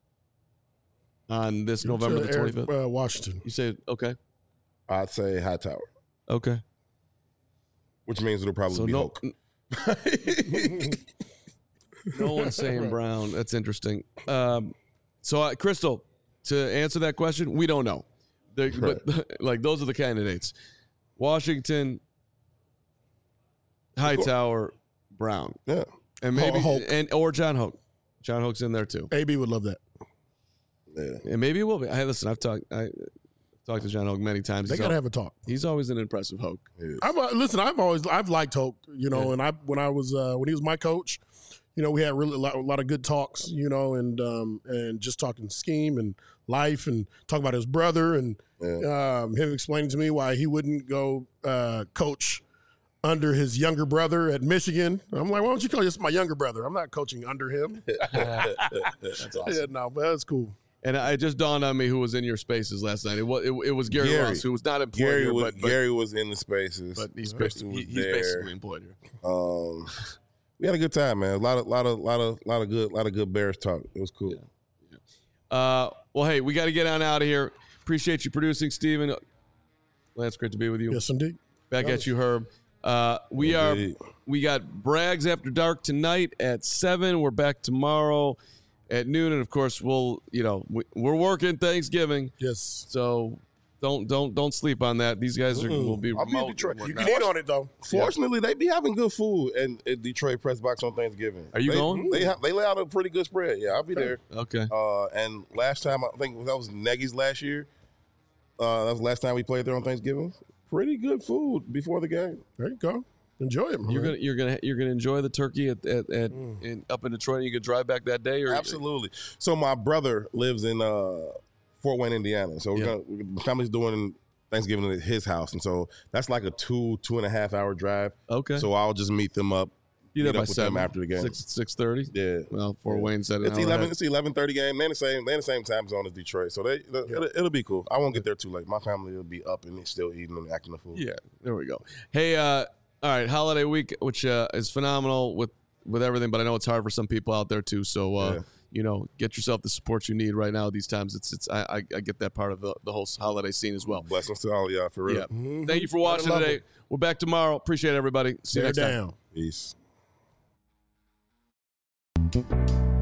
on this November the 25th?
Washington.
You say, okay.
I'd say Hightower,
Okay.
which means it'll probably
So
be
no,
Hoke.
no one's saying Brown. That's interesting. So Crystal, to answer that question, we don't know. But like those are the candidates: Washington, Hightower, Brown,
Yeah.
and maybe
Hoke.
or John Hoke. John Hoke's in there too,
AB would love that.
Yeah.
and maybe it will be. Hey, listen, I've talked to John Hoke many times.
They got to have a talk.
He's always an impressive Hoke.
I've liked Hoke, you know, and when he was my coach, you know, we had really a lot of good talks, you know, and just talking scheme and life and talking about his brother and him explaining to me why he wouldn't go coach under his younger brother at Michigan. I'm like, why don't you call this my younger brother? I'm not coaching under him.
That's awesome.
Yeah, no, but that's cool.
And it just dawned on me who was in your spaces last night. It was Gary Ross, who was not employed
Gary
here,
was,
but
Gary was in the spaces.
but he's
Crystal was
he's
there.
basically employed here.
We had a good time, man. A lot of good Bears talk. It was cool.
Well, hey, we got to get on out of here. Appreciate you producing, Steven. Lance, great to be with you.
Yes, indeed.
Back at you, Herb. We got Brags After Dark tonight at 7. We're back tomorrow at noon, and of course we're working Thanksgiving.
Yes.
So don't sleep on that. These guys will be
I'll be in
remote.
Detroit.
and
You
whatnot.
can eat on it, though.
Fortunately, they be having good food at Detroit Press Box on Thanksgiving.
Are you going?
They lay out a pretty good spread. Yeah, I'll be there.
Okay.
And last time, I think that was Nagy's last year. That was the last time we played there on Thanksgiving. Pretty good food before the game.
There you go. Enjoy it, man.
You're gonna enjoy the turkey up in Detroit. You can drive back that day, or
Absolutely. So my brother lives in Fort Wayne, Indiana. So the family's doing Thanksgiving at his house, and so that's like a 2.5 hour drive.
Okay.
So I'll just meet them up.
Be there
meet
by
up with them
7
after the game.
6:30.
Yeah.
Well, Fort Wayne said
It's 11:30 game. They're in the same time zone as Detroit, so it'll be cool. I won't get there too late. My family will be up and still eating and acting the food.
Yeah, there we go. Hey, all right, holiday week, which is phenomenal with everything, but I know it's hard for some people out there too. So get yourself the support you need right now. These times, I get that part of the whole holiday scene as well.
Blessings to all of y'all for real.
Yeah. Thank you for watching today. We're back tomorrow. Appreciate everybody. See you next time.
Peace.